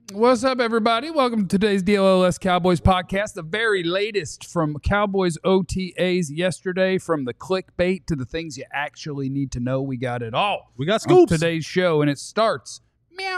What's up, everybody? Welcome to today's DLLS Cowboys podcast, the very latest from Cowboys OTAs yesterday, from the clickbait to the things you actually need to know. We got it all. We got scoops. On today's show, and it starts. Meow.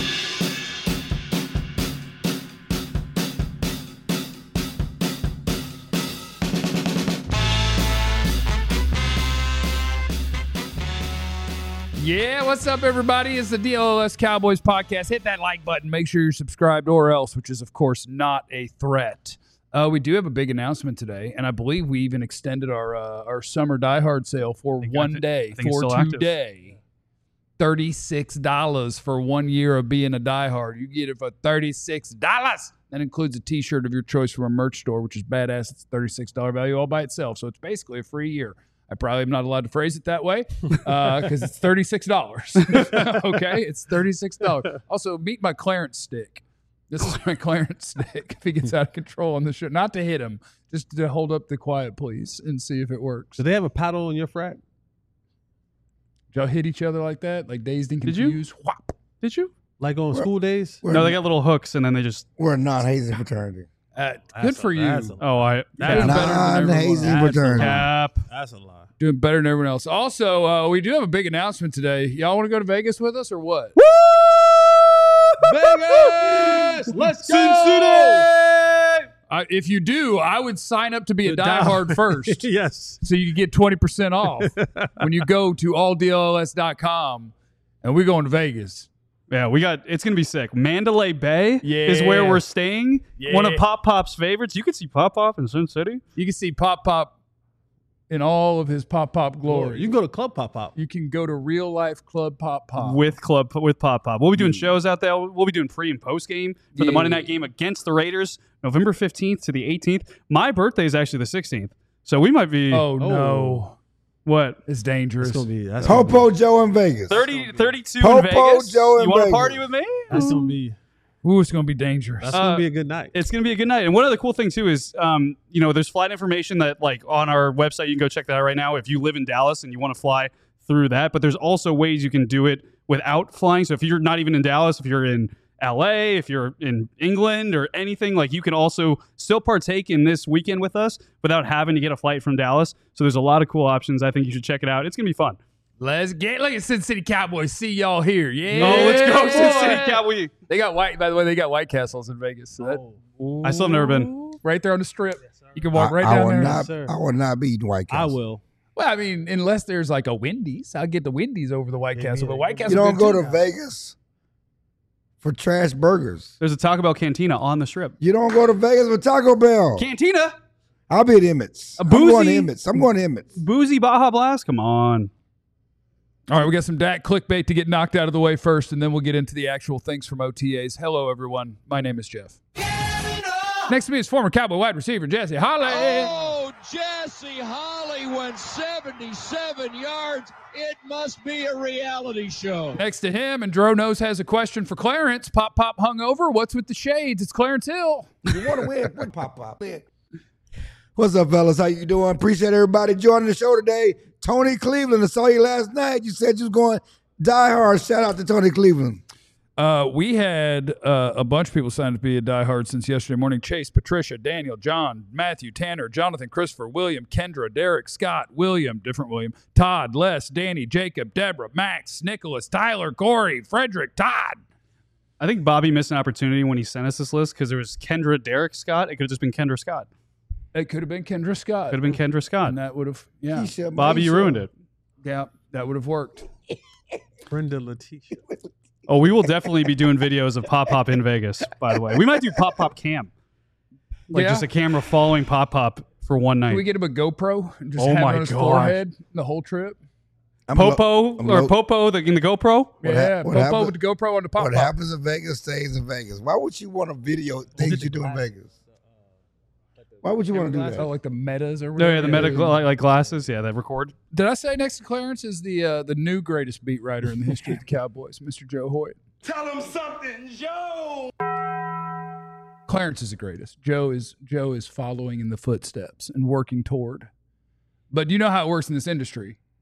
Yeah, what's up, everybody? It's the DLLS Cowboys podcast. Hit that like button. Make sure you're subscribed or else, which is, of course, not a threat. We do have a big announcement today, and I believe we even extended our summer Die Hard sale for one day, for today. $36 for 1 year of being a Die Hard. You get it for $36. That includes a T-shirt of your choice from a merch store, which is badass. It's a $36 value all by itself, so it's basically a free year. I probably am not allowed to phrase it that way because it's $36. Okay, it's $36. Also, meet my Clarence stick. This is my Clarence stick. If he gets out of control on the show, not to hit him, just to hold up the quiet, please, and see if it works. Do they have a paddle in your frat? Did y'all hit each other like that, like dazed and confused? Did you? Whop. Did you? Like on school days? No, they got little hooks, and then they just... We're a non-hazing fraternity. Good for you. Oh, That is better than everyone Non-hazing else. fraternity. Cap. That's a lie. Doing better than everyone else. Also, we do have a big announcement today. Y'all want to go to Vegas with us or what? Vegas! Let's go! If you do, I would sign up to be a diehard first. Yes. So you can get 20% off when you go to alldlls.com, and we're going to Vegas. Yeah, it's going to be sick. Mandalay Bay is where we're staying. Yeah. One of Pop Pop's favorites. You could see Pop Pop in Sin City. You can see Pop Pop in all of his Pop Pop glory. You can go to Club Pop Pop. You can go to Real Life Club Pop Pop. With Pop Pop. We'll be doing shows out there. We'll be doing pre and post game for the Monday night game against the Raiders, November 15th to the 18th. My birthday is actually the 16th. So we might be... Oh, no. What? It's dangerous. That's going to be... Popo Joe in Vegas. 32 Popo in Vegas. Joe in You want to Vegas. party with me? That's going to be... Ooh, it's going to be dangerous. That's going to be a good night. It's going to be a good night. And one other cool thing, too, is, there's flight information that, on our website, you can go check that out right now if you live in Dallas and you want to fly through that. But there's also ways you can do it without flying. So if you're not even in Dallas, if you're in LA, if you're in England or anything, you can also still partake in this weekend with us without having to get a flight from Dallas. So there's a lot of cool options. I think you should check it out. It's going to be fun. Look at Sin City Cowboys. See y'all here. Yeah. Oh, let's go, Sin boy. City Cowboys. They got by the way, they got White Castles in Vegas. So I still have never been. right there on the strip. You can walk I down will there. not. sir. I will not be eating White I Castle. will. Well, I mean, unless there's a Wendy's, I'll get the Wendy's over the White Castle. But White Castle, You don't good go too to now. Vegas for trash burgers. There's a Taco Bell Cantina on the strip. You don't go to Vegas for Taco Bell. Cantina? I'll be at Emmett's. I'm going to Emmett's. Boozy Baja Blast? Come on. All right, we got some Dak clickbait to get knocked out of the way first, and then we'll get into the actual things from OTAs. Hello, everyone. My name is Jeff. Next to me is former Cowboy wide receiver Jesse Holly. Oh, Jesse Holly went 77 yards. It must be a reality show. Next to him, and Dro Knows has a question for Clarence. Pop hungover. What's with the shades? It's Clarence Hill. You want to win? Win, Pop. What's up, fellas? How you doing? Appreciate everybody joining the show today. Tony Cleveland, I saw you last night. You said you was going Die Hard. Shout out to Tony Cleveland. We had a bunch of people signed up to be a diehard since yesterday morning. Chase, Patricia, Daniel, John, Matthew, Tanner, Jonathan, Christopher, William, Kendra, Derek, Scott, William, different William, Todd, Les, Danny, Jacob, Deborah, Max, Nicholas, Tyler, Corey, Frederick, Todd. I think Bobby missed an opportunity when he sent us this list because there was Kendra, Derek, Scott. It could have just been Kendra Scott. It could have been Kendra Scott. Could have been Kendra Scott. And that would have, yeah. Keisha, Bobby, you Maisha. ruined it. Yeah, that would have worked. Brenda Letitia. Oh, we will definitely be doing videos of Pop Pop in Vegas, by the way. We might do Pop Pop Cam. Yeah. Just a camera following Pop Pop for one night. Can we get him a GoPro and just Oh have it my on his God. forehead the whole trip? Popo I'm or low- Popo in the GoPro? Yeah, what Popo happened- with the GoPro on the Pop What Pop. happens in Vegas stays in Vegas. Why would you want to video things you do in Vegas? Why would you want to do that? Oh, like the metas or No, whatever. yeah, the medical like glasses. Yeah, that record. Did I say next to Clarence is the new greatest beat writer in the history of the Cowboys, Mr. Joe Hoyt? Tell him something, Joe. Clarence is the greatest. Joe is following in the footsteps and working toward. But you know how it works in this industry.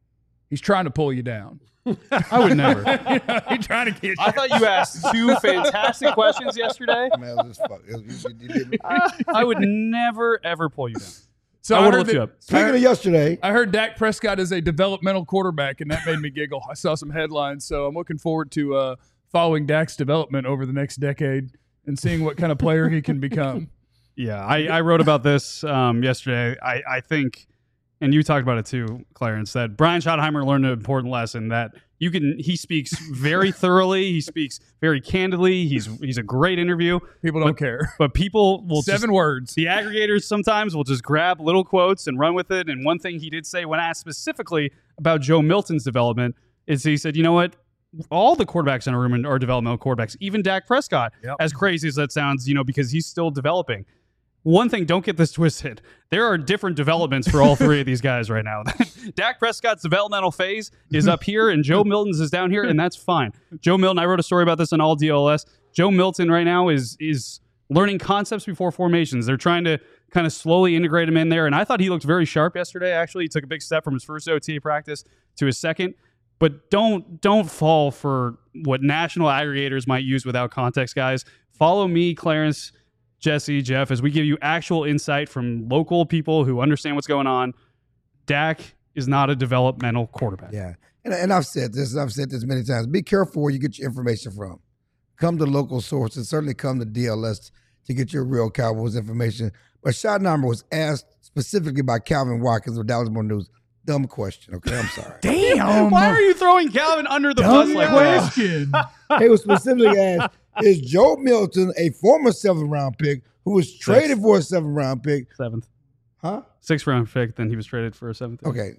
He's trying to pull you down. I would never. He's trying to get you. I thought you asked two fantastic questions yesterday. Man, it was just fuck. You did me. I would never, ever pull you down. So I would heard lift that- you up. Speaking of yesterday, I heard Dak Prescott is a developmental quarterback, and that made me giggle. I saw some headlines, so I'm looking forward to following Dak's development over the next decade and seeing what kind of player he can become. Yeah, I wrote about this yesterday. I think, and you talked about it too, Clarence, that Brian Schottenheimer learned an important lesson that he speaks very thoroughly. He speaks very candidly. He's a great interview. People don't care. But people will 7 words. The aggregators sometimes will just grab little quotes and run with it. And one thing he did say when asked specifically about Joe Milton's development is he said, you know what? All the quarterbacks in a room are developmental quarterbacks, even Dak Prescott, as crazy as that sounds, because he's still developing. One thing, don't get this twisted. There are different developments for all three of these guys right now. Dak Prescott's developmental phase is up here, and Joe Milton's is down here, and that's fine. Joe Milton, I wrote a story about this on All DLS. Joe Milton right now is learning concepts before formations. They're trying to kind of slowly integrate him in there, and I thought he looked very sharp yesterday, actually. He took a big step from his first OTA practice to his second. But don't fall for what national aggregators might use without context, guys. Follow me, Clarence, Jesse, Jeff, as we give you actual insight from local people who understand what's going on. Dak is not a developmental quarterback. yeah, and I've said this many times. Be careful where you get your information from. Come to local sources. Certainly come to DLS to get your real Cowboys information. But Schottenheimer was asked specifically by Calvin Watkins of Dallas Morning News. Dumb question, okay? I'm sorry. Damn. Why are you throwing Calvin under the bus like that? question. He was specifically asked, is Joe Milton a former 7th-round pick who was traded for a 7th-round pick? 7th. Huh? 6th round pick, then he was traded for a 7th. Okay.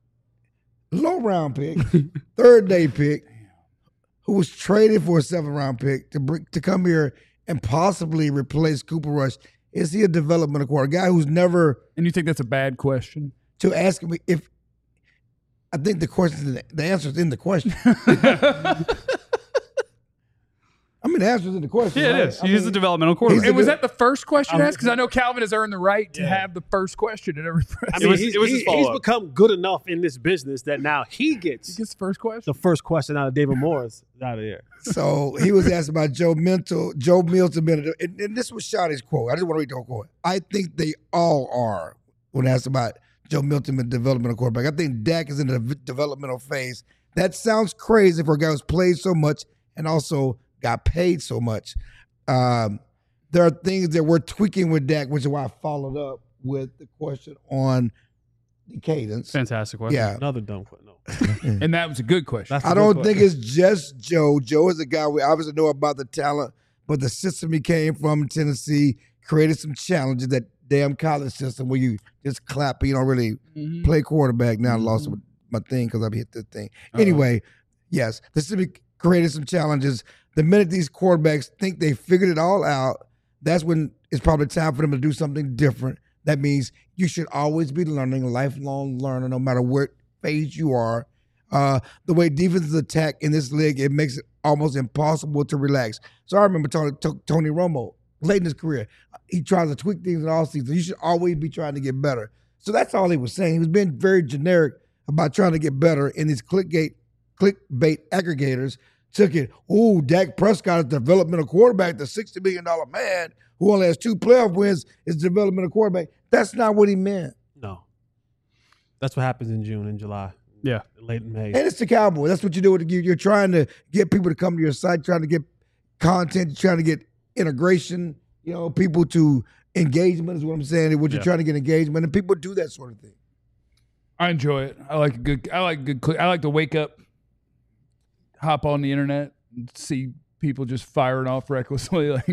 Low-round pick, 3rd-day pick, who was traded for a 7th-round pick to come here and possibly replace Cooper Rush. Is he a developmental quarterback? A guy who's never And you think that's a bad question? to ask me if I think the answer is in the question. I mean, the answer is in the question. Yeah, right? it is. He is a developmental quarterback. And was that the first question asked? Because I know Calvin has earned the right to have the first question at every press. I mean, was his he's follow-up. become good enough in this business that now he gets He gets the first question. the first question out of David Morris out of there. So he was asked about Joe Milton being and this was Shotty's quote. I just want to read the whole quote. I think they all are when asked about Joe Milton being a developmental quarterback. I think Dak is in the developmental phase. That sounds crazy for a guy who's played so much and also got paid so much. There are things that we're tweaking with Dak, which is why I followed up with the question on the cadence. Fantastic question. Yeah. Another dumb question. No. And that was a good question. That's a I good don't question. think it's just Joe. Joe is a guy we obviously know about the talent, but the system he came from in Tennessee created some challenges. That damn college system where you just clap and you don't really play quarterback. Now I lost my thing because I hit this thing. Anyway, yes, the system created some challenges. The minute these quarterbacks think they figured it all out, that's when it's probably time for them to do something different. That means you should always be learning, a lifelong learner, no matter what phase you are. The way defenses attack in this league, it makes it almost impossible to relax. So I remember Tony Romo, late in his career, he tries to tweak things in all seasons. You should always be trying to get better. So that's all he was saying. He was being very generic about trying to get better, and these clickbait aggregators took it. Oh, Dak Prescott is a developmental quarterback, the $60 million man who only has 2 playoff wins is a developmental quarterback. That's not what he meant. No. That's what happens in June and July. Yeah. Late in May. And it's the Cowboys. That's what you do. You're trying to get people to come to your site, trying to get content, you're trying to get integration, people to engagement is what I'm saying. What you're trying to get engagement, and people do that sort of thing. I enjoy it. I like to wake up, hop on the internet, and see people just firing off recklessly. Like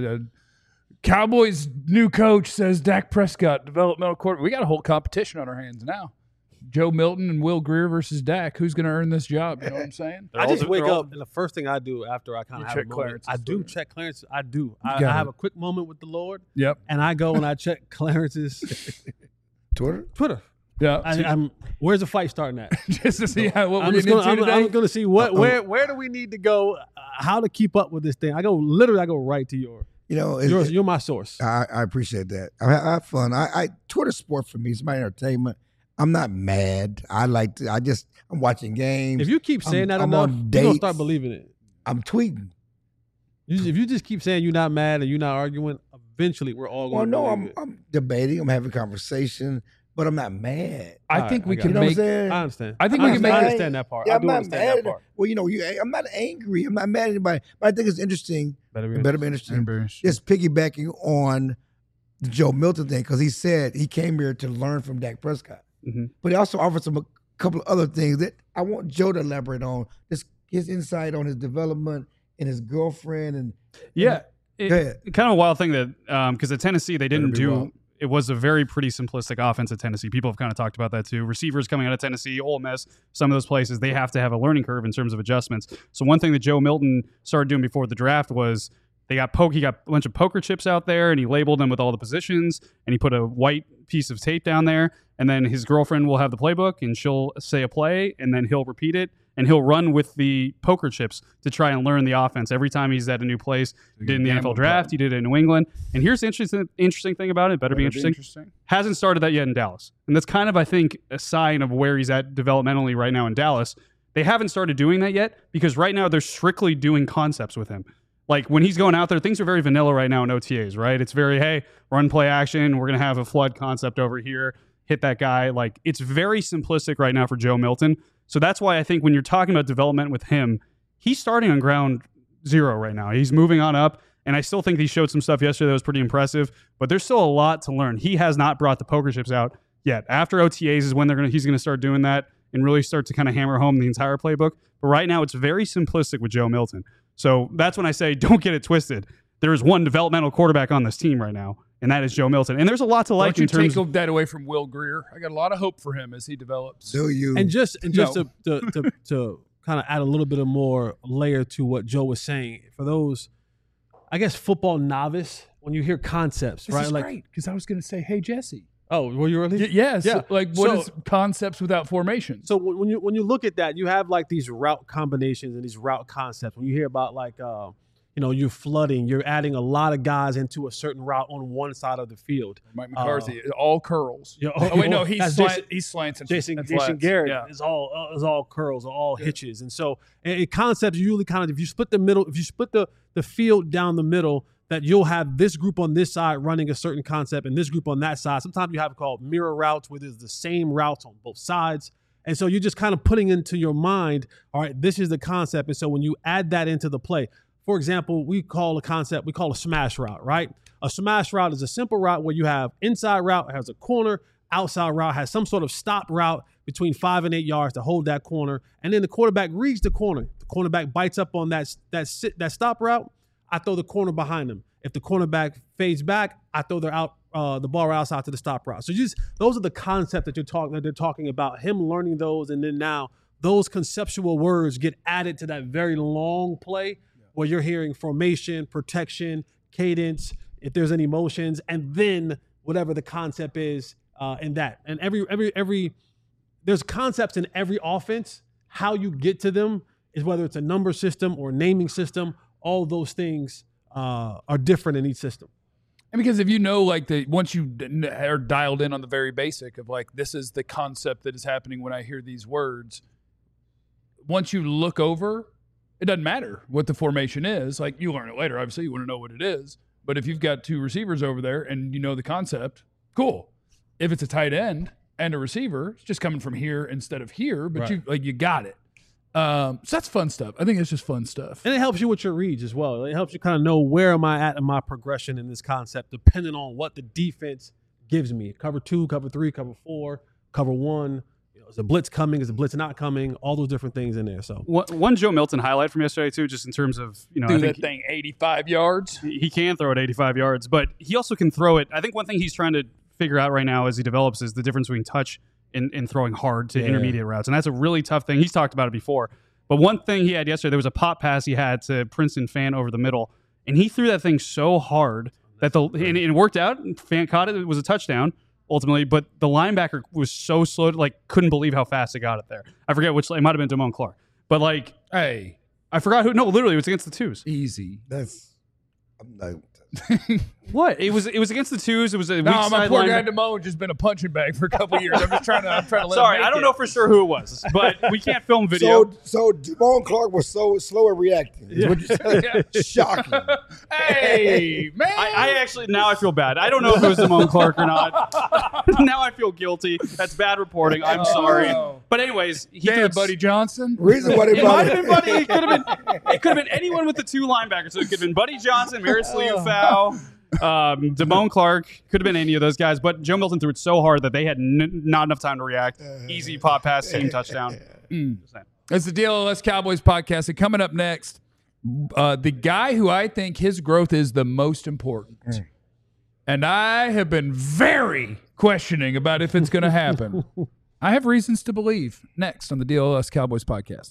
Cowboys' new coach says Dak Prescott, developmental quarterback. We got a whole competition on our hands now. Joe Milton and Will Greer versus Dak. Who's going to earn this job? You know what I'm saying? I just wake up, and the first thing I do after I kind of have a check moment, Clarence's I do story. check Clarence. I do. I got have it. a quick moment with the Lord, Yep. and I go and I check Clarence's Twitter. Yeah. I'm where's the fight starting at? Just to see what we're I'm getting into today. going to see where do we need to go, how to keep up with this thing. I go right to you're my source. I appreciate that. I have fun. Twitter sport for me. It's my entertainment. I'm not mad. I'm watching games. If you keep saying that enough, you're going to start believing it. I'm tweeting. If you just keep saying you're not mad and you're not arguing, eventually we're all going to believe it. I'm debating. I'm having conversation, but I'm not mad. I think we can make. I understand. I think we can make. I understand that part. Yeah, I do understand that part. Well, I'm not angry. I'm not mad at anybody. But I think it's interesting. Better be interesting. Just piggybacking on the Joe Milton thing, because he said he came here to learn from Dak Prescott. Mm-hmm. But he also offered a couple of other things that I want Joe to elaborate on. Just his insight on his development and his girlfriend and kind of a wild thing that because at Tennessee they didn't do. It was a very pretty simplistic offense at Tennessee. People have kind of talked about that too. Receivers coming out of Tennessee, Ole Miss, some of those places, they have to have a learning curve in terms of adjustments. So one thing that Joe Milton started doing before the draft was he got a bunch of poker chips out there, and he labeled them with all the positions, and he put a white piece of tape down there, and then his girlfriend will have the playbook, and she'll say a play, and then he'll repeat it, and he'll run with the poker chips to try and learn the offense every time he's at a new place. He did in the NFL draft. He did it in New England. And here's the interesting thing about it. Better be interesting. Hasn't started that yet in Dallas. And that's kind of, I think, a sign of where he's at developmentally right now in Dallas. They haven't started doing that yet because right now they're strictly doing concepts with him. Like when he's going out there, things are very vanilla right now in OTAs, right? It's very, hey, run play action. We're going to have a flood concept over here. Hit that guy. Like it's very simplistic right now for Joe Milton. So that's why I think when you're talking about development with him, he's starting on ground zero right now. He's moving on up, and I still think he showed some stuff yesterday that was pretty impressive, but there's still a lot to learn. He has not brought the poker chips out yet. After OTAs is when he's going to start doing that and really start to kind of hammer home the entire playbook. But right now, it's very simplistic with Joe Milton. So that's when I say don't get it twisted. There is one developmental quarterback on this team right now, and that is Joe Milton. And there's a lot to like in terms of... Don't you take that away from Will Greer. I got a lot of hope for him as he develops. Do you? And just to kind of add a little bit of more layer to what Joe was saying, for those, I guess, football novice, when you hear concepts, this right? Is great, because I was going to say, hey, Jesse. Oh, were you early? Yes. Yeah. Like, what is concepts without formation? So when you look at that, you have like these route combinations and these route concepts. When you hear about like, you're flooding, you're adding a lot of guys into a certain route on one side of the field. Mike McCarthy, all curls. He's slants. Jason Garrett is all curls, all hitches. And so concepts usually kind of, if you split the field down the middle, that you'll have this group on this side running a certain concept and this group on that side. Sometimes you have called mirror routes, where there's the same routes on both sides. And so you're just kind of putting into your mind, all right, this is the concept. And so when you add that into the play, for example, we call a smash route, right? A smash route is a simple route where you have inside route has a corner, outside route has some sort of stop route between 5 and 8 yards to hold that corner. And then the quarterback reads the corner. The cornerback bites up on that stop route. I throw the corner behind him. If the cornerback fades back, I throw the ball outside to the stop route. So those are the concepts that they're talking about, him learning those. And then now those conceptual words get added to that very long play where you're hearing formation, protection, cadence, if there's any motions, and then whatever the concept is in that. And every there's concepts in every offense. How you get to them is whether it's a number system or naming system. All those things are different in each system. And because if you know, like once you are dialed in on the very basic of like, this is the concept that is happening when I hear these words, once you look over, it doesn't matter what the formation is. Like you learn it later. Obviously you want to know what it is, but if you've got two receivers over there and you know the concept, cool. If it's a tight end and a receiver, it's just coming from here instead of here, but you got it. So that's fun stuff. I think it's just fun stuff. And it helps you with your reads as well. It helps you kind of know where am I at in my progression in this concept, depending on what the defense gives me. Cover 2, cover 3, cover 4, cover 1. Is the blitz coming? Is the blitz not coming? All those different things in there. So one Joe Milton highlight from yesterday too, just in terms of I think that thing 85 yards. He can throw it 85 yards, but he also can throw it. I think one thing he's trying to figure out right now as he develops is the difference between touch and throwing hard to intermediate routes. And that's a really tough thing. He's talked about it before. But one thing he had yesterday, there was a pop pass he had to Princeton Fan over the middle, and he threw that thing so hard that and it worked out. Fan caught it. It was a touchdown ultimately, but the linebacker was so slow, couldn't believe how fast it got it there. I forget which. It might have been Damone Clark. But hey, I forgot who. No, literally, it was against the twos. Easy. I'm not What? It was against the twos. It was a weak No, my side poor line. guy Damone just been a punching bag for a couple years. I'm trying to let him Sorry, make I don't it. know for sure who it was, but we can't film video. So Damone Clark was so slow at reacting. Is what you're saying? Shocking. Hey, man. I actually, now I feel bad. I don't know if it was Damone Clark or not. Now I feel guilty. That's bad reporting. I'm sorry. But anyways, he Damn, threw Buddy Johnson. Reason why they It might have brought been Buddy. It could have been anyone with the two linebackers. So it could have been Buddy Johnson, Maris Liufau, Damone Clark. Could have been any of those guys. But Joe Milton threw it so hard that they had not enough time to react. Easy pop pass, team touchdown. It's the DLS Cowboys podcast. And coming up next, the guy who I think his growth is the most important. And I have been very questioning about if it's going to happen. I have reasons to believe. Next on the DLS Cowboys podcast.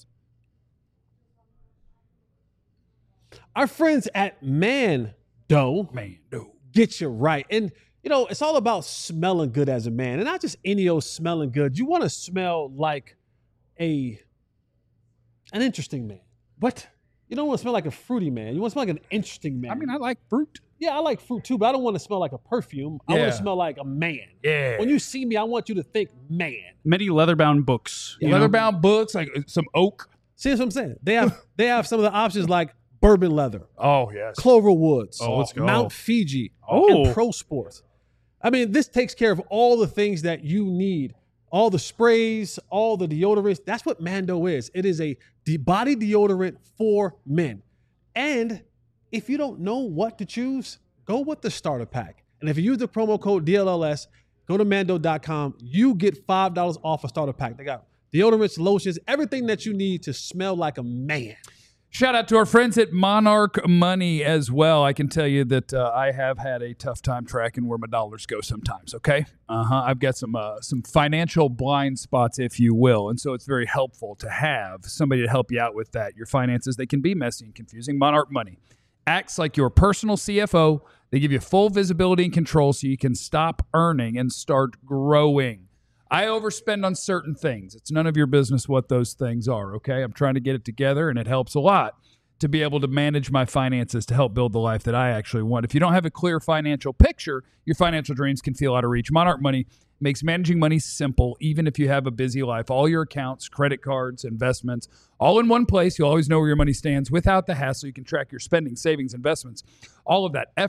Our friends at Mando get you right. And, you know, it's all about smelling good as a man. And not just any old smelling good. You want to smell like an interesting man. What? You don't want to smell like a fruity man. You want to smell like an interesting man. I mean, I like fruit. Yeah, I like fruit too, but I don't want to smell like a perfume. I want Yeah. to smell like a man. Yeah. When you see me, I want you to think man. Many leather-bound books. you know? Leather-bound books, like some oak. See what I'm saying? They have some of the options like bourbon leather, Oh, yes. Clover Woods, Oh, let's go. Mount Fiji, Oh. and Pro Sports. I mean, this takes care of all the things that you need. All the sprays, all the deodorants. That's what Mando is. It is a body deodorant for men. And if you don't know what to choose, go with the starter pack. And if you use the promo code DLLS, go to Mando.com. You get $5 off a starter pack. They got deodorants, lotions, everything that you need to smell like a man. Shout out to our friends at Monarch Money as well. I can tell you that I have had a tough time tracking where my dollars go sometimes, okay? I've got some financial blind spots, if you will, and so it's very helpful to have somebody to help you out with that. Your finances, they can be messy and confusing. Monarch Money acts like your personal CFO. They give you full visibility and control so you can stop earning and start growing. I overspend on certain things. It's none of your business what those things are, okay? I'm trying to get it together, and it helps a lot to be able to manage my finances to help build the life that I actually want. If you don't have a clear financial picture, your financial dreams can feel out of reach. Monarch Money makes managing money simple, even if you have a busy life. All your accounts, credit cards, investments, all in one place. You'll always know where your money stands without the hassle. You can track your spending, savings, investments, all of that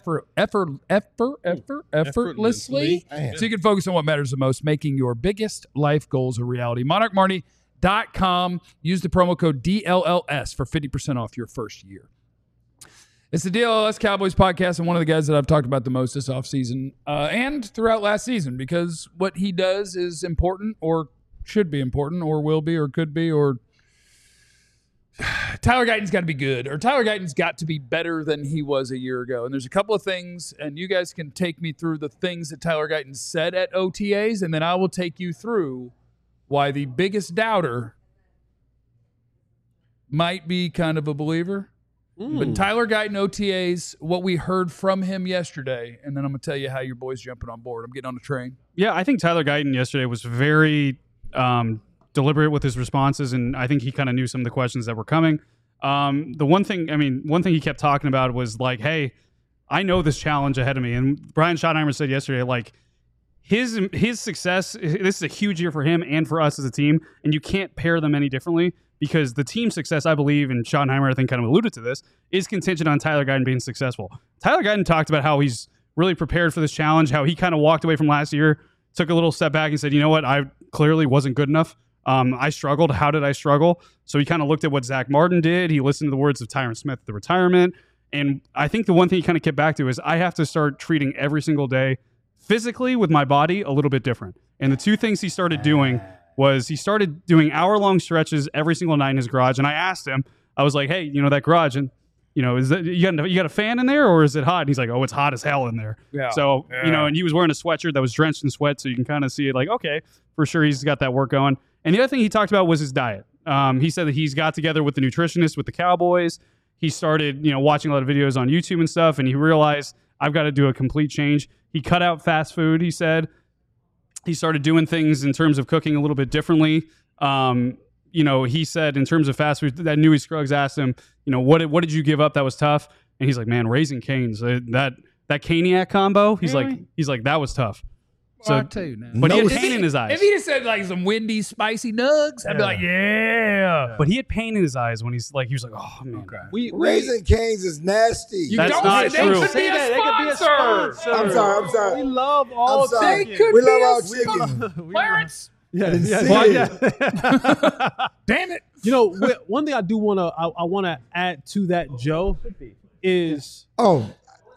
effortlessly. So you can focus on what matters the most, making your biggest life goals a reality. MonarchMoney.com. Use the promo code DLLS for 50% off your first year. It's the DLLS Cowboys podcast, and one of the guys that I've talked about the most this offseason and throughout last season, because what he does is important, or should be important, or will be, or could be, or Tyler Guyton's got to be good, or Tyler Guyton's got to be better than he was a year ago. And there's a couple of things, and you guys can take me through the things that Tyler Guyton said at OTAs, and then I will take you through why the biggest doubter might be kind of a believer. But Tyler Guyton OTAs, what we heard from him yesterday, and then I'm going to tell you how your boy's jumping on board. I'm getting on the train. Yeah, I think Tyler Guyton yesterday was very deliberate with his responses, and I think he kind of knew some of the questions that were coming. The one thing he kept talking about was like, hey, I know this challenge ahead of me. And Brian Schottenheimer said yesterday, like, his success, this is a huge year for him and for us as a team, and you can't pair them any differently, because the team success, I believe, and Schottenheimer, I think, kind of alluded to this, is contingent on Tyler Guyton being successful. Tyler Guyton talked about how he's really prepared for this challenge, how he kind of walked away from last year, took a little step back and said, you know what, I clearly wasn't good enough. I struggled. How did I struggle? So he kind of looked at what Zach Martin did. He listened to the words of Tyron Smith at the retirement. And I think the one thing he kind of kept back to is I have to start treating every single day physically with my body a little bit different. And the two things he started doing was he started doing hour-long stretches every single night in his garage. And I asked him, I was like, hey, you know, that garage, and you know, is that you got a fan in there, or is it hot? And he's like, oh, it's hot as hell in there. Yeah. So, you know, and he was wearing a sweatshirt that was drenched in sweat, so you can kind of see it like, okay, for sure he's got that work going. And the other thing he talked about was his diet. He said that he's got together with the nutritionist with the Cowboys. He started, you know, watching a lot of videos on YouTube and stuff, and he realized I've got to do a complete change. He cut out fast food, he said. He started doing things in terms of cooking a little bit differently. You know, he said in terms of fast food, that Newey Scruggs asked him, you know, what did you give up that was tough? and he's like, man, Raising Cane's that Caniac combo. He's Really? like that was tough. So, I too now. but he had No, pain in his eyes. If he just said like some windy, spicy nugs, I'd be like, yeah. But he had pain in his eyes when he was like, oh man. We Raising Cane's is nasty. You That's don't not say true. They could be a They could be a sponsor. sponsor. I'm We sorry. love all I'm sorry. chicken. They could We be love a all sponsor. chicken. Clarence, Yeah, yeah. damn it. You know, one thing I do want to I want to add to that, Joe, is Oh,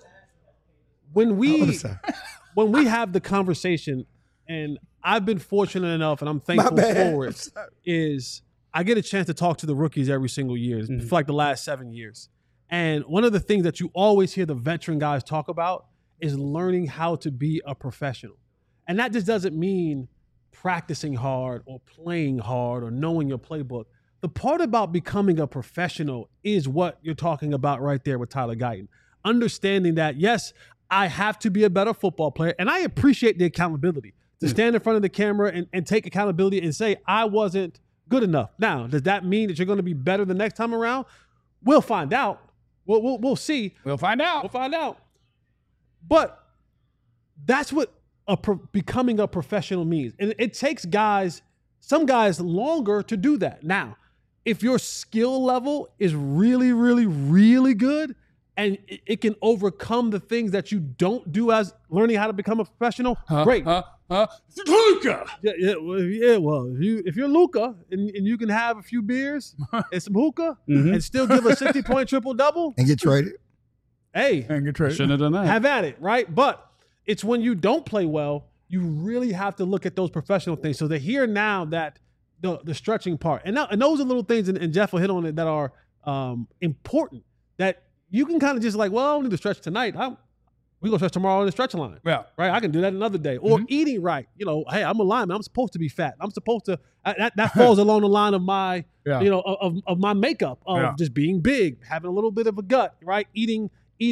when we I'm sorry. when we have the conversation, and I've been fortunate enough, and I'm My thankful bad. for it, is I get a chance to talk to the rookies every single year for like the last 7 years. And one of the things that you always hear the veteran guys talk about is learning how to be a professional. And that just doesn't mean practicing hard or playing hard or knowing your playbook. The part about becoming a professional is what you're talking about right there with Tyler Guyton. Understanding that, yes, I have to be a better football player, and I appreciate the accountability to stand in front of the camera and take accountability and say, I wasn't good enough. Now, does that mean that you're going to be better the next time around? We'll find out. We'll see. We'll find out. We'll find out. But that's what becoming a professional means. And it takes some guys longer to do that. Now, if your skill level is really, really, really good, and it can overcome the things that you don't do as learning how to become a professional, great. Luka. Well, if you're Luka and you can have a few beers and some hookah and still give a 60-point triple-double, And get traded. hey, And get traded. Shouldn't have done that. have at it, right? But it's when you don't play well, you really have to look at those professional things. So they're here now that the stretching part. And those are little things, and Jeff will hit on it, that are important, that you can kind of just like, well, I don't need to stretch tonight. We go stretch tomorrow on the stretch line. Yeah. Right? I can do that another day. Or eating right. You know, hey, I'm a lineman. I'm supposed to be fat. I'm supposed to, that falls along the line of my, Yeah. you know, of my makeup, of just being big, having a little bit of a gut, right? Eating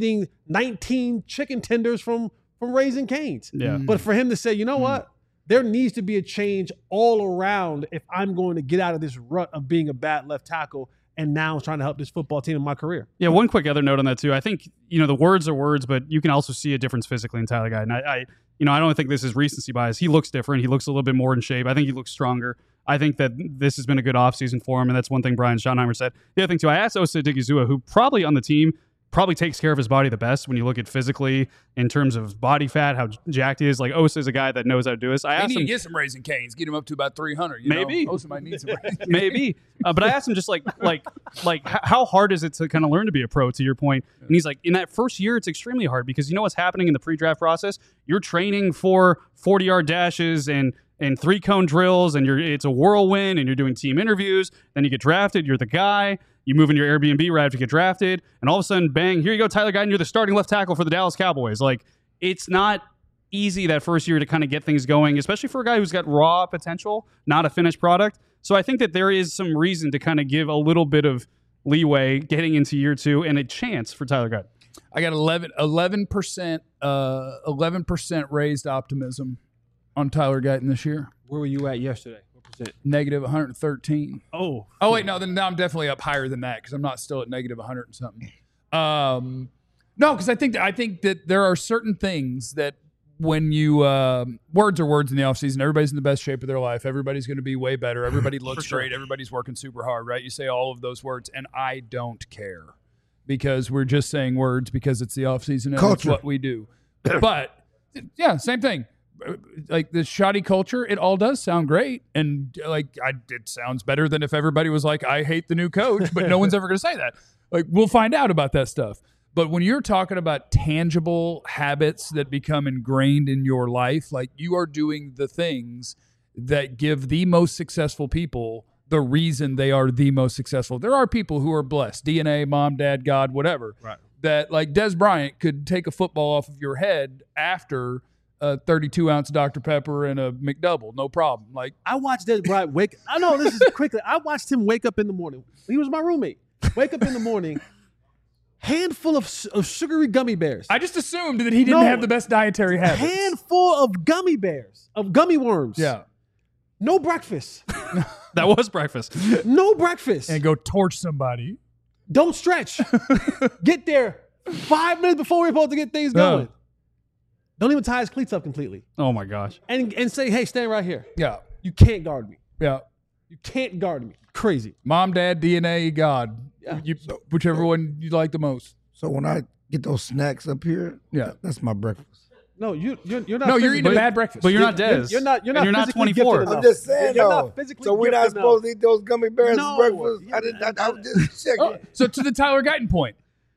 19 chicken tenders from Raising Cane's. Yeah. But for him to say, you know what? There needs to be a change all around if I'm going to get out of this rut of being a bad left tackle and now trying to help this football team in my career. Yeah, one quick other note on that too. I think, the words are words, but you can also see a difference physically in Tyler Guyton. I don't think this is recency bias. He looks different. He looks a little bit more in shape. I think he looks stronger. I think that this has been a good offseason for him, and that's one thing Brian Schottenheimer said. The other thing too, I asked Osa Odighizuwa, who probably on the team probably takes care of his body the best when you look at physically in terms of body fat, how jacked he is. Like Osa is a guy that knows how to do this. I They asked need to him, get some Raising Cane's, get him up to about 300. Maybe. Also might need some Raising Cane's. maybe, but I asked him just like how hard is it to kind of learn to be a pro, to your point? And he's like, in that first year, it's extremely hard because you know what's happening in the pre-draft process? You're training for 40-yard dashes and 3-cone drills, and it's a whirlwind, and you're doing team interviews. Then you get drafted, you're the guy. You move in your Airbnb right after you get drafted, and all of a sudden, bang, here you go, Tyler Guyton, you're the starting left tackle for the Dallas Cowboys. Like, it's not easy that first year to kind of get things going, especially for a guy who's got raw potential, not a finished product. So I think that there is some reason to kind of give a little bit of leeway getting into year two and a chance for Tyler Guyton. I got 11% raised optimism on Tyler Guyton this year. Where were you at yesterday? What percent? Negative 113. Oh, Wait, no, then now I'm definitely up higher than that because I'm not still at negative 100 and something. No, because I think that there are certain things that when you words are words in the offseason, everybody's in the best shape of their life. Everybody's going to be way better. Everybody looks great. Everybody's working super hard, right? You say all of those words, and I don't care because we're just saying words because it's the offseason and it's what we do. But yeah, same thing. Like the shoddy culture, it all does sound great, and it sounds better than if everybody was like, "I hate the new coach," but no one's ever going to say that. Like, we'll find out about that stuff. But when you're talking about tangible habits that become ingrained in your life, like you are doing the things that give the most successful people the reason they are the most successful. There are people who are blessed, DNA, mom, dad, God, whatever. Right. That like Des Bryant could take a football off of your head after a 32-ounce Dr. Pepper and a McDouble, no problem. Like I watched Des Bryant wake. I know this is quickly. I watched him wake up in the morning. He was my roommate. Wake up in the morning, handful of sugary gummy bears. I just assumed that he didn't have the best dietary habits. Handful of gummy bears, of gummy worms. Yeah. No breakfast. That was breakfast. No breakfast. And go torch somebody. Don't stretch. Get there 5 minutes before we're supposed to get things going. Don't even tie his cleats up completely. Oh my gosh. And say, hey, stand right here. Yeah. You can't guard me. Yeah. You can't guard me. Crazy. Mom, dad, DNA, God. Yeah. Whichever one you like the most. So when I get those snacks up here, Yeah. that's my breakfast. No, you're not. No, you're eating a bad breakfast. But you're not Dez. You're not. And you're not physically 24. gifted I'm enough. just saying, You're though. not physically So we're not gifted supposed enough. to eat those gummy bears No. for breakfast? I was just checking. Oh, so to the Tyler Guyton point,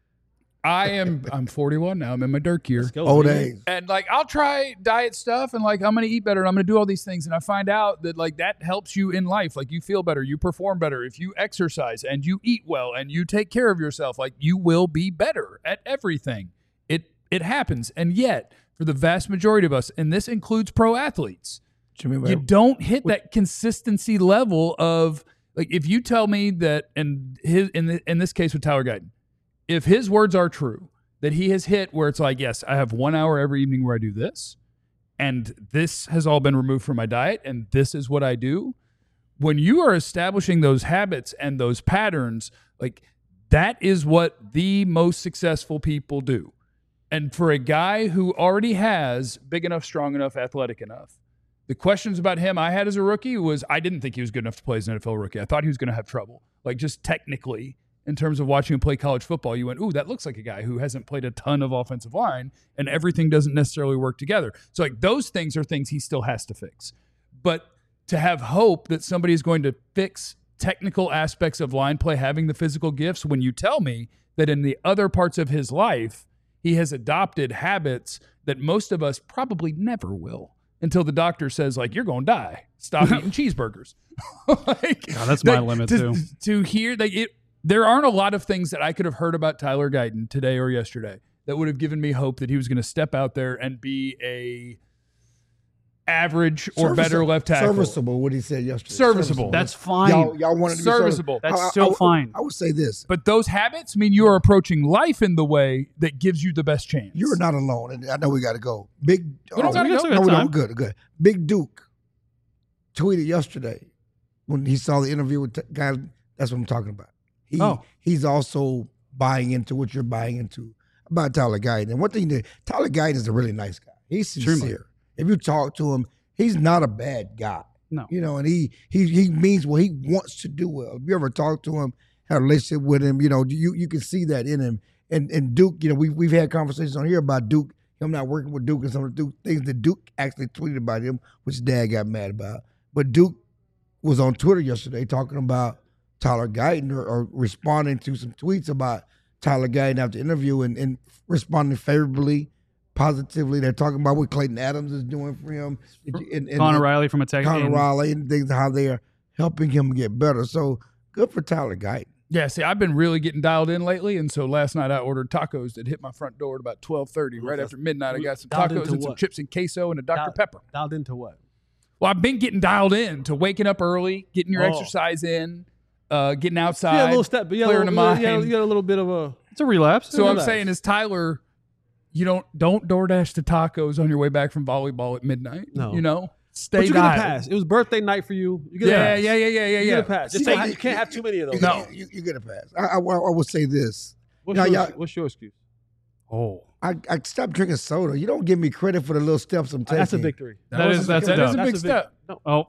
I'm 41 now. I'm in my dirt year. Let's go, Old man. age. And like I'll try diet stuff and like I'm gonna eat better and I'm gonna do all these things and I find out that like that helps you in life. Like you feel better, you perform better if you exercise and you eat well and you take care of yourself. Like you will be better at everything. It happens. And yet, for the vast majority of us, and this includes pro athletes, you don't hit that consistency level of like if you tell me that in this case with Tyler Guyton, if his words are true, that he has hit where it's like, yes, I have 1 hour every evening where I do this, and this has all been removed from my diet, and this is what I do. When you are establishing those habits and those patterns, like that is what the most successful people do. And for a guy who already has big enough, strong enough, athletic enough, the questions about him I had as a rookie was I didn't think he was good enough to play as an NFL rookie. I thought he was going to have trouble, like just technically. In terms of watching him play college football, you went, ooh, that looks like a guy who hasn't played a ton of offensive line, and everything doesn't necessarily work together. So, like, those things are things he still has to fix. But to have hope that somebody is going to fix technical aspects of line play, having the physical gifts, when you tell me that in the other parts of his life, he has adopted habits that most of us probably never will until the doctor says, like, you're going to die. Stop eating cheeseburgers. Like, God, that's my limit, too. To hear that there aren't a lot of things that I could have heard about Tyler Guyton today or yesterday that would have given me hope that he was going to step out there and be a average or better left tackle. Serviceable, what he said yesterday. Serviceable. That's fine. Y'all wanted to Serviceable. be That's still fine. I would say this. But those habits mean you are approaching life in the way that gives you the best chance. You're not alone. And I know we got to go. Big. We don't gotta go. No, we don't. Good. Big Duke tweeted yesterday when he saw the interview with the guy. That's what I'm talking about. He's also buying into what you're buying into about Tyler Guyton. And one thing that Tyler Guyton is a really nice guy. He's sincere. If you talk to him, he's not a bad guy. No. You know, and he means what he wants to do well. If you ever talk to him, had a relationship with him, you know, you can see that in him. And Duke, you know, we've had conversations on here about Duke, him not working with Duke and some of the things that Duke actually tweeted about him, which Dad got mad about. But Duke was on Twitter yesterday talking about Tyler Guyton or responding to some tweets about Tyler Guyton after the interview and responding favorably, positively. They're talking about what Clayton Adams is doing for him. And Connor Riley from a Texas. Connor Riley and things, how they are helping him get better. So good for Tyler Guyton. Yeah, see, I've been really getting dialed in lately, and so last night I ordered tacos that hit my front door at about 12:30. Right after midnight, I got some tacos and some chips and queso and a Dr. Pepper. Dialed into what? Well, I've been getting dialed in to waking up early, getting your exercise in, getting outside, Yeah, a little step, but clearing the mind. you got a little bit of a. It's a relapse. So I'm saying is Tyler, you don't DoorDash to tacos on your way back from volleyball at midnight. No. You know, stay But you get a dialed. pass. It was birthday night for you. You get a Yeah. pass. You get a pass. Just say you can't have too many of those. No. You get a pass. I will say this. What's your excuse? Oh, I stopped drinking soda. You don't give me credit for the little steps I'm taking. That's a victory. that's a That is dub. a big step. Oh,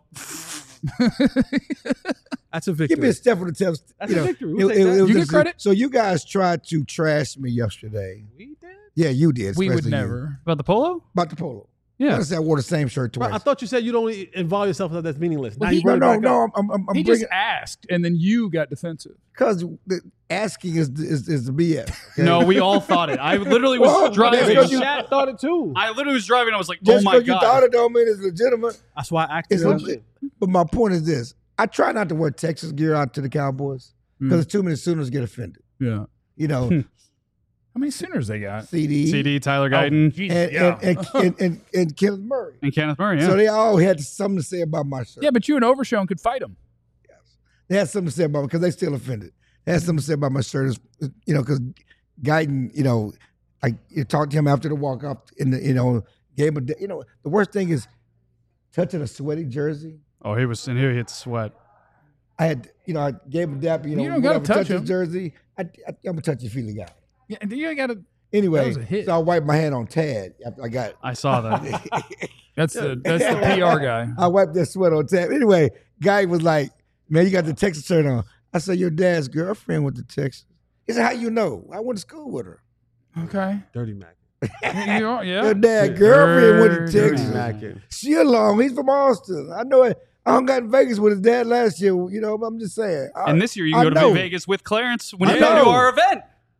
That's a victory. Give me a step for the steps. That's a victory. We'll take that. You get just- credit? So you guys tried to trash me yesterday. We did. Yeah, you did. We would especially you. never. about the polo? About the polo. Yeah. I said I wore the same shirt twice. Bro, I thought you said you don't involve yourself in that's meaningless. Now Well, you bring it back up. No. I'm He bringing just asked, and then you got defensive. because the asking is the BS. Okay? No, we all thought it. I literally was Well, driving. that's 'cause you- Shaq thought it too. I literally was driving. I was like, oh just my because you God. thought it don't mean it's legitimate. That's why I asked It's you. legit. But my point is this: I try not to wear Texas gear out to the Cowboys because too many Sooners get offended. Yeah. You know, How many Sooners they got? CD, CD, Tyler Guyton, and Kenneth Murray. and Kenneth Murray. Yeah. So they all had something to say about my shirt. Yeah, but you and Overshown could fight them. They had something to say about me because they still offended. They had something to say about my shirt, because Guyton, you talked to him after the walk off in the, gave him the worst thing is touching a sweaty jersey. Oh, he was in here. He hit sweat. I had, I gave him a dap, You don't gotta whatever, touch his him. jersey. I'm a touchy-feely guy. Yeah, and you got to. That Anyway, was a hit. so I wiped my hand on Tad. I saw that. That's the PR guy. I wiped that sweat on Tad. Anyway, guy was like, "Man, you got the Texas shirt on." I said, "Your dad's girlfriend went to Texas." He said, "How you know? I went to school with her." Okay. Dirty Mac. Yeah. Your dad's girlfriend went to Dirty Texas. Mackin. She along. He's from Austin. I know it. I hung out in Vegas with his dad last year. You know, but I'm just saying. And this year you I can go know. to Vegas with Clarence when I you go to know. our event.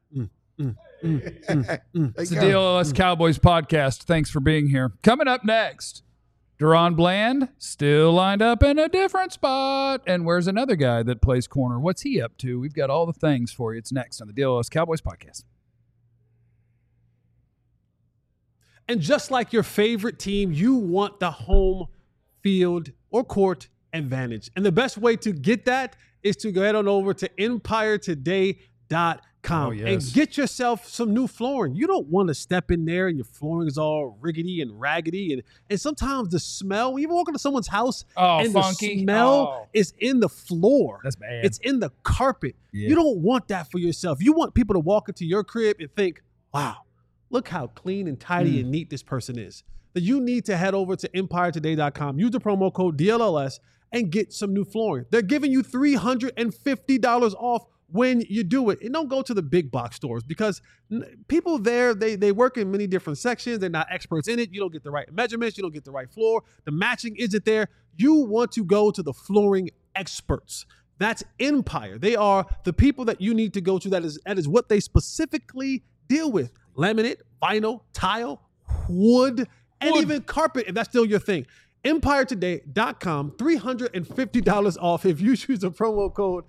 It's the DLS Cowboys podcast. Thanks for being here. Coming up next, Deron Bland still lined up in a different spot. And where's another guy that plays corner? What's he up to? We've got all the things for you. It's next on the DLS Cowboys podcast. And just like your favorite team, you want the home field or court advantage. And the best way to get that is to go head on over to EmpireToday.com and get yourself some new flooring. You don't want to step in there and your flooring is all rickety and raggedy. And sometimes the smell, when you walk into someone's house and funky. the smell is in the floor. That's bad. It's in the carpet. Yeah. You don't want that for yourself. You want people to walk into your crib and think, wow, look how clean and tidy and neat this person is. That you need to head over to EmpireToday.com, use the promo code DLLS, and get some new flooring. They're giving you $350 off when you do it. And don't go to the big box stores because people there, they work in many different sections. They're not experts in it. You don't get the right measurements. You don't get the right floor. The matching isn't there. You want to go to the flooring experts. That's Empire. They are the people that you need to go to. That is what they specifically deal with. Laminate, vinyl, tile, wood, and even carpet, if that's still your thing. EmpireToday.com, $350 off if you use the promo code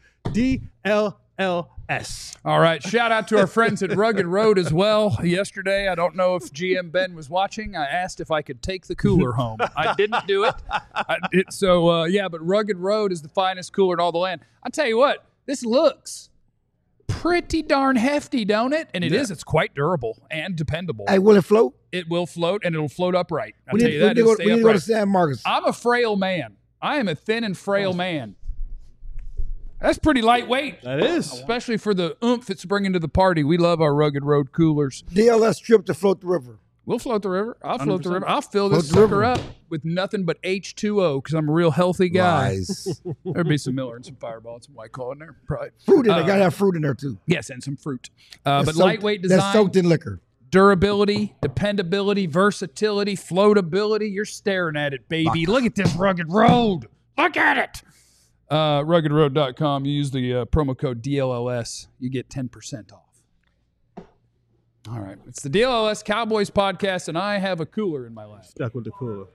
DLLS. All right. Shout out to our friends at Rugged Road as well. Yesterday, I don't know if GM Ben was watching. I asked if I could take the cooler home. I didn't do it. But Rugged Road is the finest cooler in all the land. I tell you what, this looks pretty darn hefty, don't it? And it is. It's quite durable and dependable. Hey, will it float? It will float, and it'll float upright. I'll We tell need, you that. we It'll need, stay to go to upright. San Marcos. I'm a frail man. I am a thin and frail man. That's pretty lightweight. That is. Especially for the oomph it's bringing to the party. We love our Rugged Road coolers. DLS trip to float the river. We'll float the river. I'll float the river. I'll fill Float this the sucker river. up with nothing but H2O because I'm a real healthy guy. Lies. There'd be some Miller and some Fireball and some White Claw in there. Probably. Fruit in there. Gotta have fruit in there too. Yes, and some fruit. That's But soaked- lightweight design. That's soaked in liquor. Durability, dependability, versatility, floatability. You're staring at it, baby. Look at this Rugged Road. Look at it. RuggedRoad.com. You use the promo code DLLS. You get 10% off. All right. It's the DLLS Cowboys podcast, and I have a cooler in my lap. Stuck with the cooler.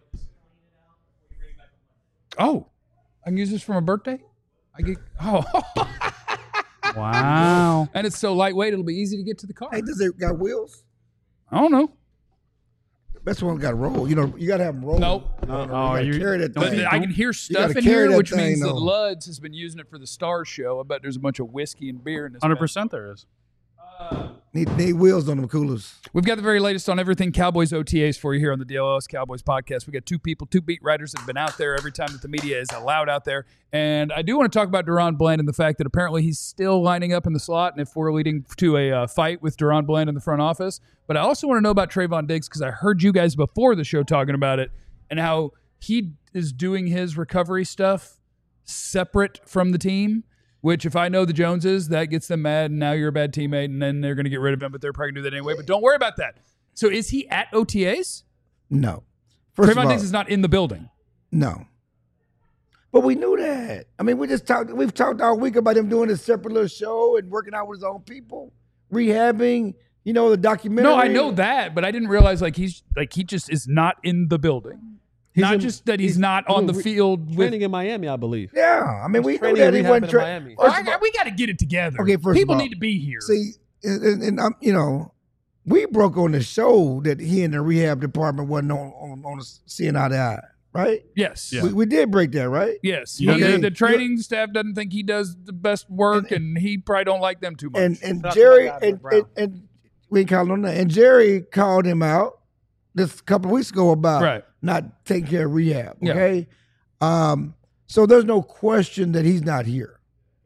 Oh, I can use this for my birthday? Wow. And it's so lightweight, it'll be easy to get to the car. Hey, does it got wheels? I don't know. Best one got to roll. You know, you got to have them roll. Nope. You gotta carry that But thing. I can hear stuff gotta in carry here, that which thing, means that though. Luds has been using it for the Star Show. I bet there's a bunch of whiskey and beer in this. 100% there is. Need wheels on them coolers. We've got the very latest on everything Cowboys OTAs for you here on the DLS Cowboys podcast. We got two beat writers that have been out there every time that the media is allowed out there. And I do want to talk about Deron Bland and the fact that apparently he's still lining up in the slot and if we're leading to a fight with Deron Bland in the front office. But I also want to know about Trayvon Diggs because I heard you guys before the show talking about it and how he is doing his recovery stuff separate from the team. Which, if I know the Joneses, that gets them mad, and now you're a bad teammate, and then they're going to get rid of him, but they're probably going to do that anyway. But don't worry about that. So is he at OTAs? No. First of Trayvon all, Diggs is not in the building. no. But we knew that. I mean, we've talked all week about him doing his separate little show and working out with his own people, rehabbing, the documentary. No, I know that, but I didn't realize he just is not in the building. Just that he's not on the field with. Training in Miami, I believe. Yeah. I mean, we knew training that and he rehabbing wasn't in training. Miami. We got to get it together. Okay, first of people all, need to be here. See, and we broke on the show that he in the rehab department wasn't on seeing eye to eye, right? Yes. Yeah. We did break that, right? Yes. Okay. The training staff doesn't think he does the best work, and he probably don't like them too much. And That's Jerry what I got with and we ain't calling on that. And Jerry called him out this couple of weeks ago about Right. not taking care of rehab. Yeah. Okay, so there's no question that he's not here,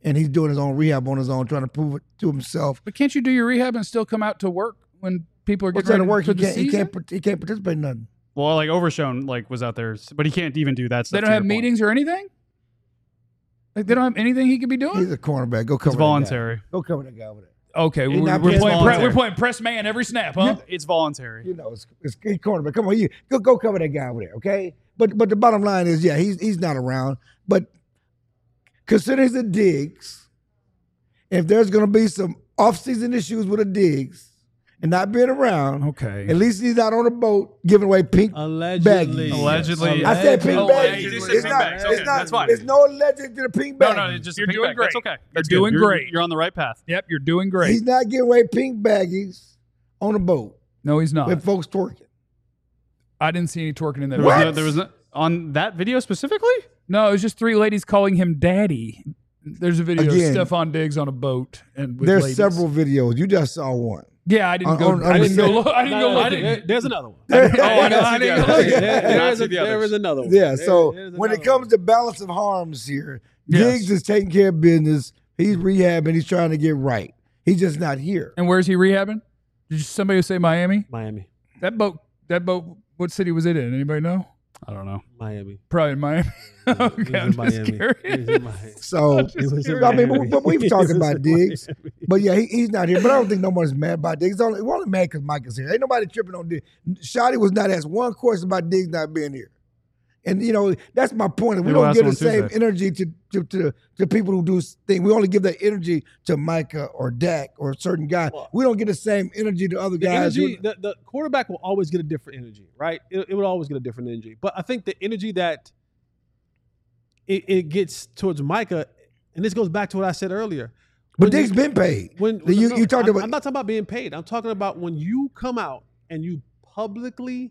and he's doing his own rehab on his own, trying to prove it to himself. But can't you do your rehab and still come out to work when people are What's getting that ready to work? for the season? He can't participate in nothing. Well, like Overshone, like was out there, but he can't even do that stuff. They don't have meetings or anything? Like they don't have anything he could be doing? He's a cornerback. Go cover It's that guy. voluntary. Go cover that guy over there. Okay, He's we're not playing, voluntary. we're playing press man every snap, huh? It's voluntary. You know, it's cornerback. Come on, go cover that guy over there, okay? But the bottom line is, yeah, he's not around. But considering the Diggs, if there's going to be some off-season issues with the Diggs and not being around, Okay. at least he's out on a boat giving away pink Allegedly. baggies. Allegedly. I said pink Allegedly. baggies. You just said It's pink not. bags. It's Okay, not. that's fine. There's no alleged to the pink No, baggies. no, it's just You're a pink doing bag. great. That's okay. You're That's doing good. great. You're on the right path. Yep, you're doing great. He's not giving away pink baggies on a boat No, he's not. with folks twerking. I didn't see any twerking in that There was video. no, there was no, on that video specifically? No, it was just 3 ladies calling him daddy. There's a video Again, of Stephon Diggs on a boat and with There's ladies. several videos. You just saw one. Yeah, I didn't go. on I didn't the go. set. Look, I didn't go look. There's another one. I didn't go look. There is another one. Yeah, so There's when it another comes to balance of harms here, Yes. Diggs is taking care of business. He's rehabbing. He's trying to get right. He's just not here. And where's he rehabbing? Did somebody say Miami? Miami. That boat. What city was it in? Anybody know? I don't know. Miami. Probably in Miami. Okay, I'm just curious. He's in Miami. So, He was in I mean, Miami. but we've He talked was about in Diggs. Miami. But yeah, he's not here. But I don't think no one's mad about Diggs. We're only mad because Mike is here. Ain't nobody tripping on Diggs. Shotty was not asked one question about Diggs not being here. And, you know, that's my point. We Maybe we'll don't ask give him the on same Tuesday. energy to people who do things. We only give that energy to Micah or Dak or a certain guy. We don't get the same energy to other The guys. energy, the quarterback will always get a different energy, right? It would always get a different energy. But I think the energy that it gets towards Micah, and this goes back to what I said earlier. But When Diggs you- been paid. you talked about. I'm not talking about being paid. I'm talking about when you come out and you publicly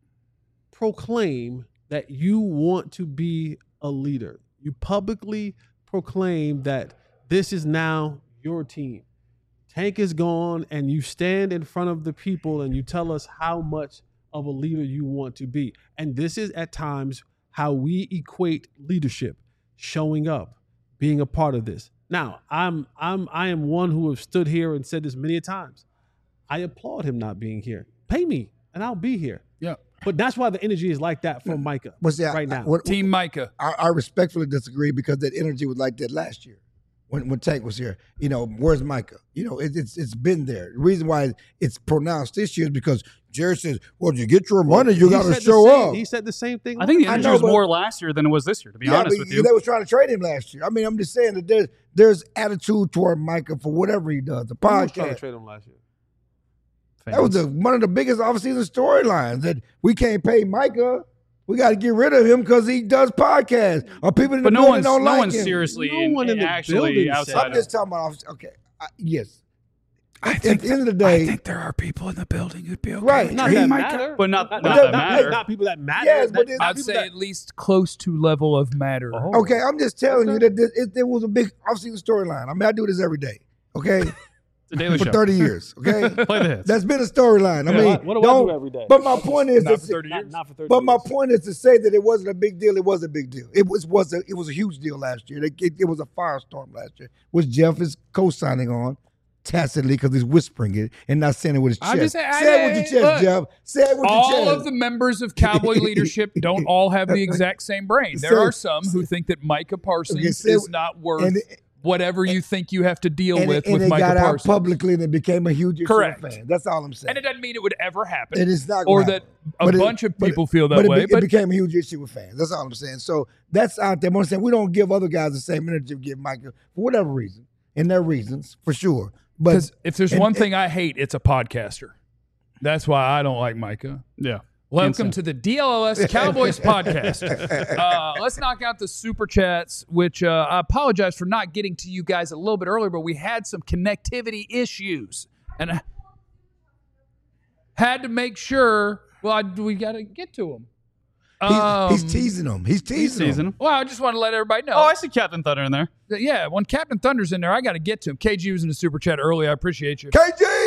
proclaim that you want to be a leader. You publicly proclaim that this is now your team. Tank is gone, and you stand in front of the people and you tell us how much of a leader you want to be. And this is at times how we equate leadership, showing up, being a part of this. Now, I am one who have stood here and said this many times. I applaud him not being here. Pay me, and I'll be here. Yeah. But that's why the energy is like that from Micah But see, right now. Team Micah. I respectfully disagree because that energy was like that last year when Tank was here. You know, where's Micah? You know, it's been there. The reason why it's pronounced this year is because Jerry says, well, you get your money, you He got to said the show same- up. He said the same thing. I think the I energy know, was but- more last year than it was this year, to be honest with you. They was trying to trade him last year. I mean, I'm just saying that there's attitude toward Micah for whatever he does. The Who was trying to podcast. trade him last year? That was one of the biggest offseason storylines that we can't pay Micah. We got to get rid of him because he does podcasts. Or people in the But no building one's don't no like one's him. seriously No one in the actually building outside. said I'm just talking about okay. Yes. At the end of the I day, think there are people in the building who'd be okay. Right. with Not trading that Micah. matter. But not not, that not, matter. not people that matter. Yes, but That- it's- I'd say at least close to level of matter. okay, I'm just telling you that there was a big offseason storyline. I mean, I do this every day. Okay, The Daily for Show. 30 years. Okay, Play the hits. that's been a storyline. I mean, what do I do every day? But my point is, Not that- for 30 years. Not for 30 but my years. point is to say that it wasn't a big deal. It was a big deal. It was a huge deal last year. It was a firestorm last year, which Jeff is co-signing on tacitly because he's whispering it and not saying it with his chest. I'm just Say saying- it with your chest, look, Jeff. Say it with your All chest. of the members of Cowboy leadership don't all have the exact same brain. There Say- are some who think that Micah Parsons Okay, say- is not worth and- whatever you think you have to deal and with it Micah got out Parsons. publicly and it became a huge issue Correct. of fans. That's all I'm saying. And it doesn't mean it would ever happen. It is not or gonna that happen. a But bunch of people feel that but way. it But became a huge issue with fans. That's all I'm saying. So that's out there. I'm saying we don't give other guys the same energy we give Micah for whatever reason, and their reasons for sure. But because if there's and- one thing I hate, it's a podcaster. That's why I don't like Micah. Yeah. Welcome to the DLLS Cowboys podcast. Let's knock out the super chats, which I apologize for not getting to you guys a little bit earlier, but we had some connectivity issues. And I had to make sure, we got to get to them. he's teasing them. He's teasing Season them. him. Well, I just want to let everybody know. Oh, I see Captain Thunder in there. Yeah, when Captain Thunder's in there, I got to get to him. KG was in the super chat earlier. I appreciate you. KG!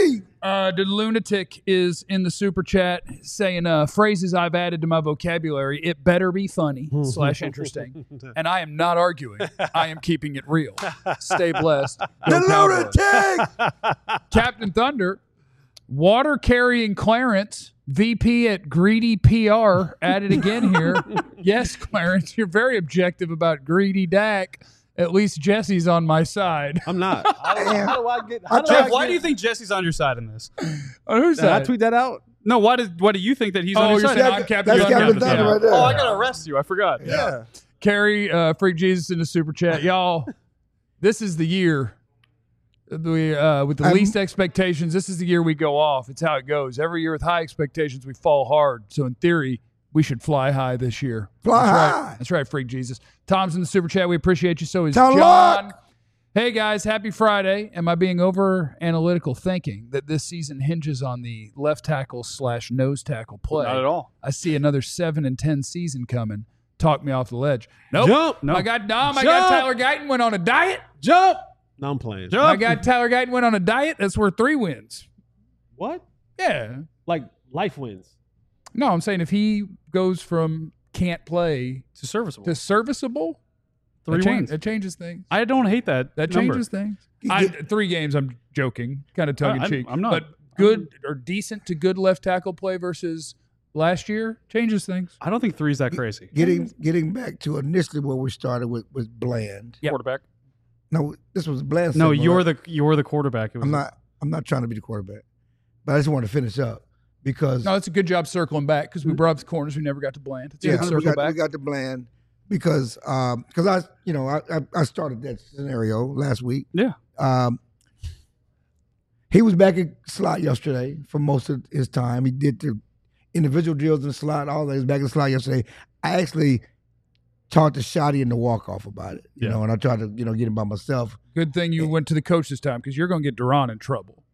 me. The lunatic is in the super chat saying phrases I've added to my vocabulary. It better be funny / interesting. And I am not arguing. I am keeping it real. Stay blessed. Go The Cowboys. lunatic. Captain Thunder, water carrying Clarence, VP at Greedy PR, added again here. Yes, Clarence, you're very objective about Greedy Dak. At least Jesse's on my side. I'm not. How do I get? Jeff, why do you think Jesse's on your side in this? On whose Did I side? tweet that out? No, why do you think that he's on Oh, your you're side? saying I'm Captain That's Thunder. Captain Thunder right there. Oh, I gotta arrest you. I forgot. Yeah. Carrie, Freak Jesus in the super chat. Y'all, this is the year with the least expectations. This is the year we go off. It's how it goes. Every year with high expectations, we fall hard. So in theory, we should fly high this year. Fly That's high. Right. That's right, Freak Jesus. Tom's in the super chat. We appreciate you. So is Tom John. Locke. Hey guys, happy Friday. Am I being over analytical thinking that this season hinges on the left tackle / nose tackle play? Not at all. I see another 7-10 season coming. Talk me off the ledge. Nope. Jump. No. My guy Jump. Tyler Guyton went on a diet. Jump. No, I'm playing. Jump. My guy Tyler Guyton went on a diet. That's worth 3 wins. What? Yeah. Like life wins. No, I'm saying if he goes from can't play It's serviceable. to serviceable, 3 wins. it changes things. I don't hate that. That number. changes things. You 3 games, I'm joking, kind of tongue in cheek. I'm not. But good or decent to good left tackle play versus last year changes things. I don't think 3's that crazy. Getting back to initially where we started with Bland. Yep. Quarterback. No, this was Bland. No, segment, you're right? the quarterback. It was I'm not trying to be the quarterback, but I just want to finish up because No, it's a good job circling back because we brought up the corners. We never got to Bland. It's a yeah, good we circle got, back. we got the Bland because I started that scenario last week. Yeah. He was back in slot yesterday for most of his time. He did the individual drills in the slot, all that. He was back in the slot yesterday. I actually talked to Shotty in the walk-off about it, you know, and I tried to, get him by myself. Good thing you went to the coach this time because you're going to get Duran in trouble.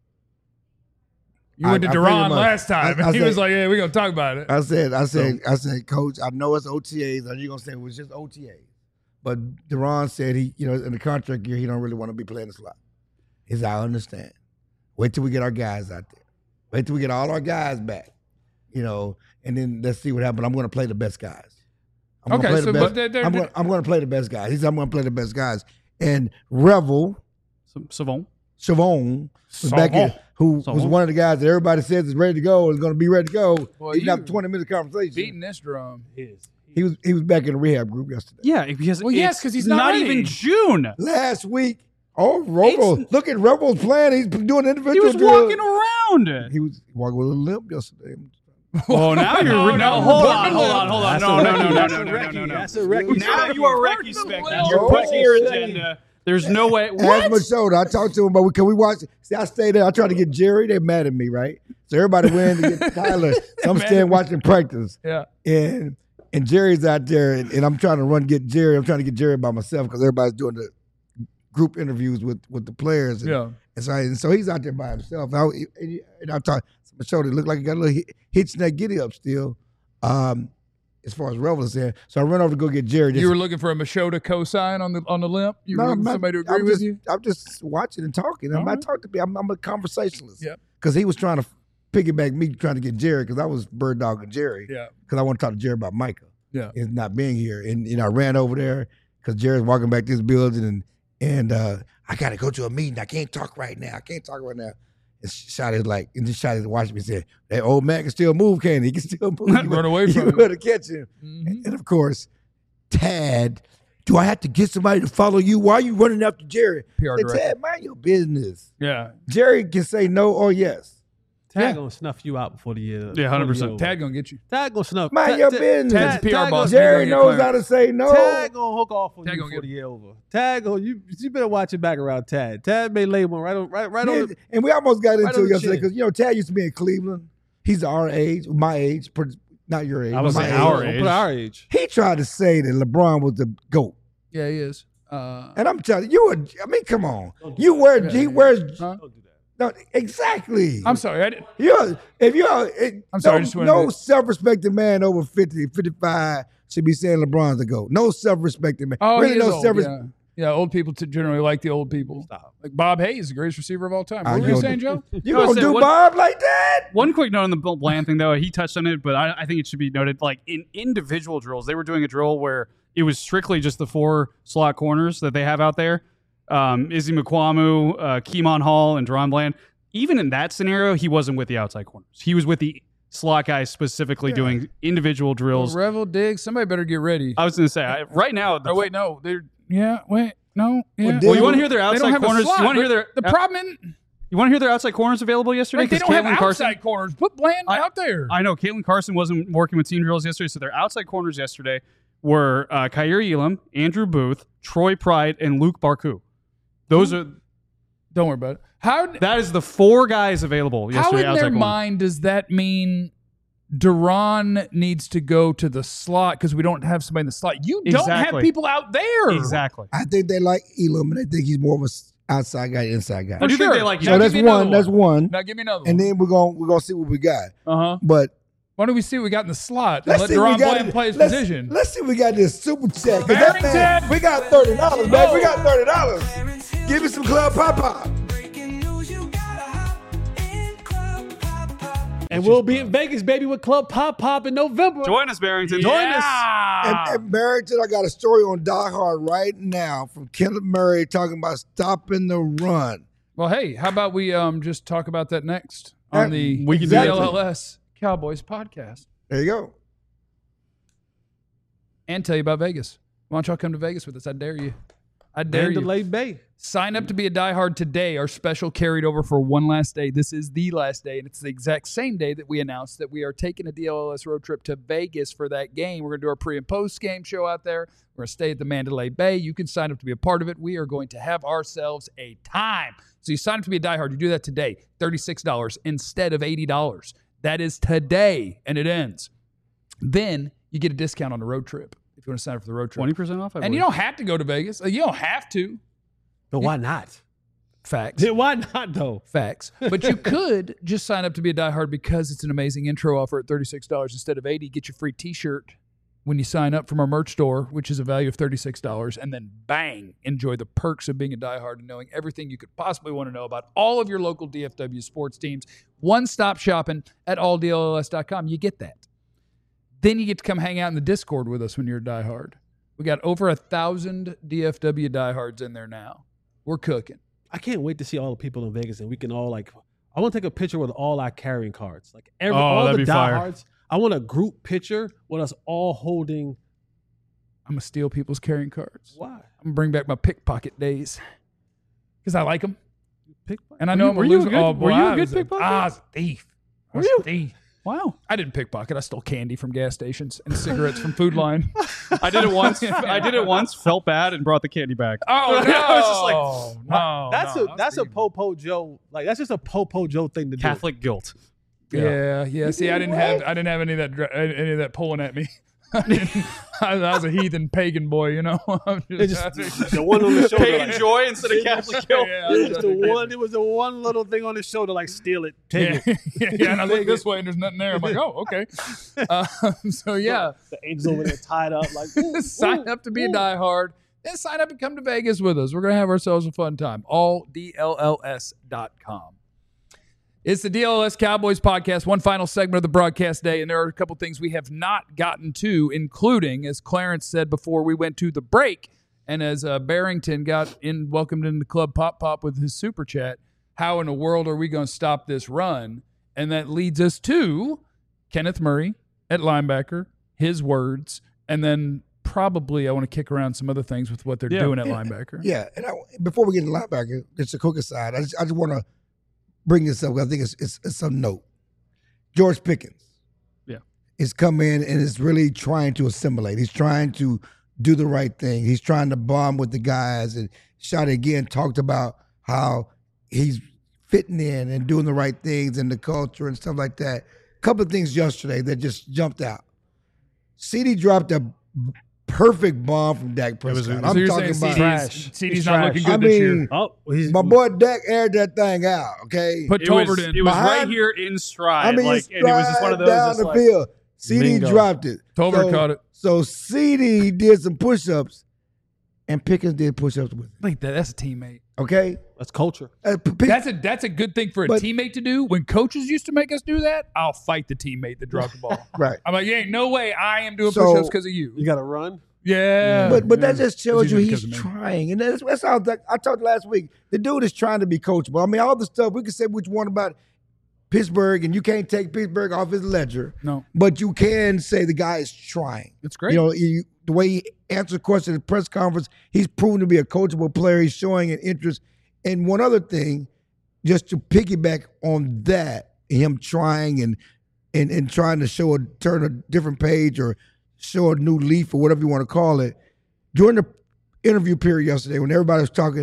You I- went to I pretty Duran much- last time. I he said- was like, yeah, we're going to talk about it. I said, Coach, I know it's OTAs. Are you gonna say it was just OTAs? But Duran said he, in the contract year, he don't really want to be playing the slot. He said, I understand. Wait till we get our guys out there. Wait till we get all our guys back. And then let's see what happens. I'm going to play the best guys. I'm Okay, gonna play so the but best. I'm going to play the best guys. He said, I'm going to play the best guys. And Revel, Savon. Chavon, was back in, who was Savon. one of the guys that everybody says is ready to go, is going to be ready to go. Well, He's you not 20-minute conversation. beating this drum. He was back in the rehab group yesterday. Yeah, because Well, yes, it's 'cause he's not ready. even June. Last week, Revel, look at Revel's playing. He's doing individual He was drills. walking around. He was walking with a limp yesterday. Oh, now you're no, hold putting on. That's No. a Recce. That's a Recce. Now you are Recce spec. You're Oh, pushing your okay. agenda. There's no way. Ask What? Machota. I talked to him, but can we watch? See, I stayed there. I tried to get Jerry. They're mad at me, right? So everybody went to get Tyler. So I'm staying watching practice. Yeah. And Jerry's out there, and I'm trying to get Jerry. I'm trying to get Jerry by myself because everybody's doing the group interviews with the players. And, Yeah. and so he's out there by himself. And I talked to Machota. It looked like he got a little hitch in that giddy up still. As far as Revel is there. So I run over to go get Jerry. You were looking for a Machota cosign on the limp? You were looking for somebody to agree with you? I'm just watching and talking. I'm not talking to people. I'm a conversationalist. Yep. Because he was trying to piggyback me, trying to get Jerry, because I was bird dogging Jerry. Yeah. Because I want to talk to Jerry about Micah. Yeah. Is not being here. And I ran over there because Jerry's walking back to this building, and I got to go to a meeting. I can't talk right now. And Shotty's like, and just Shotty's watching me and said, that old man can still move, can't he? He can still move. Run away from you him. better catch him. Mhm. And of course, Tad, do I have to get somebody to follow you? Why are you running after Jerry? PR I said, director. Tad, mind your business. Yeah. Jerry can say no or yes. Tag gonna snuff you out before the year. Yeah, 100%. Tad gonna get you. Tag gonna snuff. Mind your business. Tad's a PR boss. Jerry You're gonna knows get how to say no. Tag gonna hook off on Tag you gonna before get- the year over. Tag gonna you better watch it back around Tad. Tad may lay one right on Yeah, on the, and we almost got right into on it the yesterday chin. because, Tad used to be in Cleveland. He's our age, my age, not your age. I was my saying age. our Don't age. put our age. He tried to say that LeBron was the GOAT. Yeah, he is. And I'm telling you, come on. He wears, Huh? Don't do that. no, exactly. I'm sorry. I didn't. I'm sorry, I just wanted no to- self-respecting man over 50, 55 should be saying LeBron's the GOAT. No self-respecting man. Oh, really he is no old. self-respect. Yeah, old people generally like the old people. Stop. Like Bob Hayes, the greatest receiver of all time. I What were you know saying, that. Joe? You I was gonna saying, do what- Bob like that? One quick note on the Bill Bland thing, though. He touched on it, but I think it should be noted. Like in individual drills, they were doing a drill where it was strictly just the 4 slot corners that they have out there. Izzy McQuamu, Keemon Hall, and Deron Bland. Even in that scenario, he wasn't with the outside corners. He was with the slot guys specifically doing individual drills. Revel, Diggs, somebody better get ready. I was going to say, right now, Oh, wait, no. They're, yeah, wait, no. Yeah. well, you want to hear their They don't outside have a corners? slot, You want to but hear their the problem in, You want to hear their outside corners available yesterday? like, they 'Cause don't have Caitlin Carson- outside corners. Put Bland out there. I know Caitlin Carson wasn't working with team drills yesterday, so their outside corners yesterday were Kyrie Elam, Andrew Booth, Troy Pride, and Luke Barku. Those are Don't worry about it. that is the 4 guys available How yesterday. in outside their corner. mind does that mean Duran needs to go to the slot because we don't have somebody in the slot? You don't have Exactly. people out there. Exactly. I think they like Elam, and they think he's more of a outside guy, inside guy. I do think they like Now So give that's me another one. That's one. Now give me another And one. then we're gonna see what we got. Uh-huh. But Why don't we see what we got in the slot and let's let see what Duran we got. Bland play his let's, position? let's see what we got this super chat. 'Cause that man, we got $30, man. We got $30. Give me some Club Pop. And we'll be in Vegas, baby, with Club Pop in November. Join us, Barrington. And Barrington, I got a story on Die Hard right now from Kenneth Murray talking about stopping the run. Well, hey, how about we just talk about that next on the We can do that. DLLS Cowboys podcast There you go. and tell you about Vegas. Why don't y'all come to Vegas with us? I dare you. I dare you. Mandalay Bay. Sign up to be a diehard today. Our special carried over for one last day. This is the last day, and it's the exact same day that we announced that we are taking a DLLS road trip to Vegas for that game. We're going to do our pre- and post-game show out there. We're going to stay at the Mandalay Bay. You can sign up to be a part of it. We are going to have ourselves a time. So you sign up to be a diehard. You do that today, $36 instead of $80. That is today, and it ends. Then you get a discount on the road trip if you want to sign up for the road trip. 20% off. And you don't have to go to Vegas. You don't have to. But why not? Facts. Why not, though? Facts. But you could just sign up to be a diehard because it's an amazing intro offer at $36 instead of $80. Get your free t-shirt when you sign up from our merch store, which is a value of $36. And then bang, enjoy the perks of being a diehard and knowing everything you could possibly want to know about all of your local DFW sports teams. One-stop shopping at alldlls.com. You get that. Then you get to come hang out in the Discord with us when you're a diehard. We got over 1,000 DFW diehards in there now. We're cooking. I can't wait to see all the people in Vegas, and we can all I want to take a picture with all our carrying cards, all that'd the be fire. diehards. I want a group picture with us all holding. I'm going to steal people's carrying cards. Why? I'm going to bring back my pickpocket days because I like them. Pickpocket? And I know I'm were a you a loser. good- Oh, boy, were you a I good was pickpocket? I was a thief. I was a thief. Wow. I didn't pickpocket. I stole candy from gas stations and cigarettes from Food Line. I did it once. Felt bad and brought the candy back. Oh, no. I was just like, no. That's a Popo Joe. That's just a Popo Joe thing to do. Catholic guilt. Yeah. See, I didn't have any of that pulling at me. I was a heathen pagan boy, you know. I'm It's just- just the one on the shoulder. Pagan joy instead of Catholic guilt. Yeah, It was just the one. It was the one little thing on his shoulder, steal it, take it. yeah, and I look this way and there's nothing there. I'm like, oh, okay. So yeah, The angels over there tied up like. sign up to be a diehard and sign up and come to Vegas with us. We're gonna have ourselves a fun time. AllDLLS.com. It's the DLLS Cowboys podcast, one final segment of the broadcast day, and there are a couple things we have not gotten to, including, as Clarence said before we went to the break, and as Barrington welcomed into Club Pop with his super chat, how in the world are we going to stop this run? And that leads us to Kenneth Murray at linebacker, his words, and then probably I want to kick around some other things with what they're doing at linebacker. Yeah, and before we get into linebacker, just a quick aside. I just want to bring this up because I think it's some note. George Pickens, is come in and is really trying to assimilate. He's trying to do the right thing. He's trying to bond with the guys. And Shotty again talked about how he's fitting in and doing the right things and the culture and stuff like that. A couple of things yesterday that just jumped out. CD dropped a perfect bomb from Dak Prescott. So you're talking saying about CD's not looking good I this year. mean, Oh, my boy Dak aired that thing out. Okay, Put It was Tolbert in. right Behind- here in stride. I mean, and it was just one of those. down just the like, field. CD Bingo. dropped it. Tolbert caught it. So CD did some push-ups and Pickens did push-ups with him. Like that. That's a teammate. Okay? That's culture. That's a good thing for a teammate to do. When coaches used to make us do that, I'll fight the teammate that dropped the ball. Right. I'm like, yeah, no way I am doing push-ups because of you. You got to run. Yeah. But that just shows you It's usually he's because of me. trying. And that's how I talked last week. The dude is trying to be coachable. I mean, all the stuff, we can say what you want about Pittsburgh, and you can't take Pittsburgh off his ledger. No. But you can say the guy is trying. It's great. You know, the way he answers questions at the press conference, he's proven to be a coachable player. He's showing an interest. And one other thing, just to piggyback on that, him trying and trying to turn a different page or show a new leaf or whatever you want to call it. During the interview period yesterday, when everybody was talking,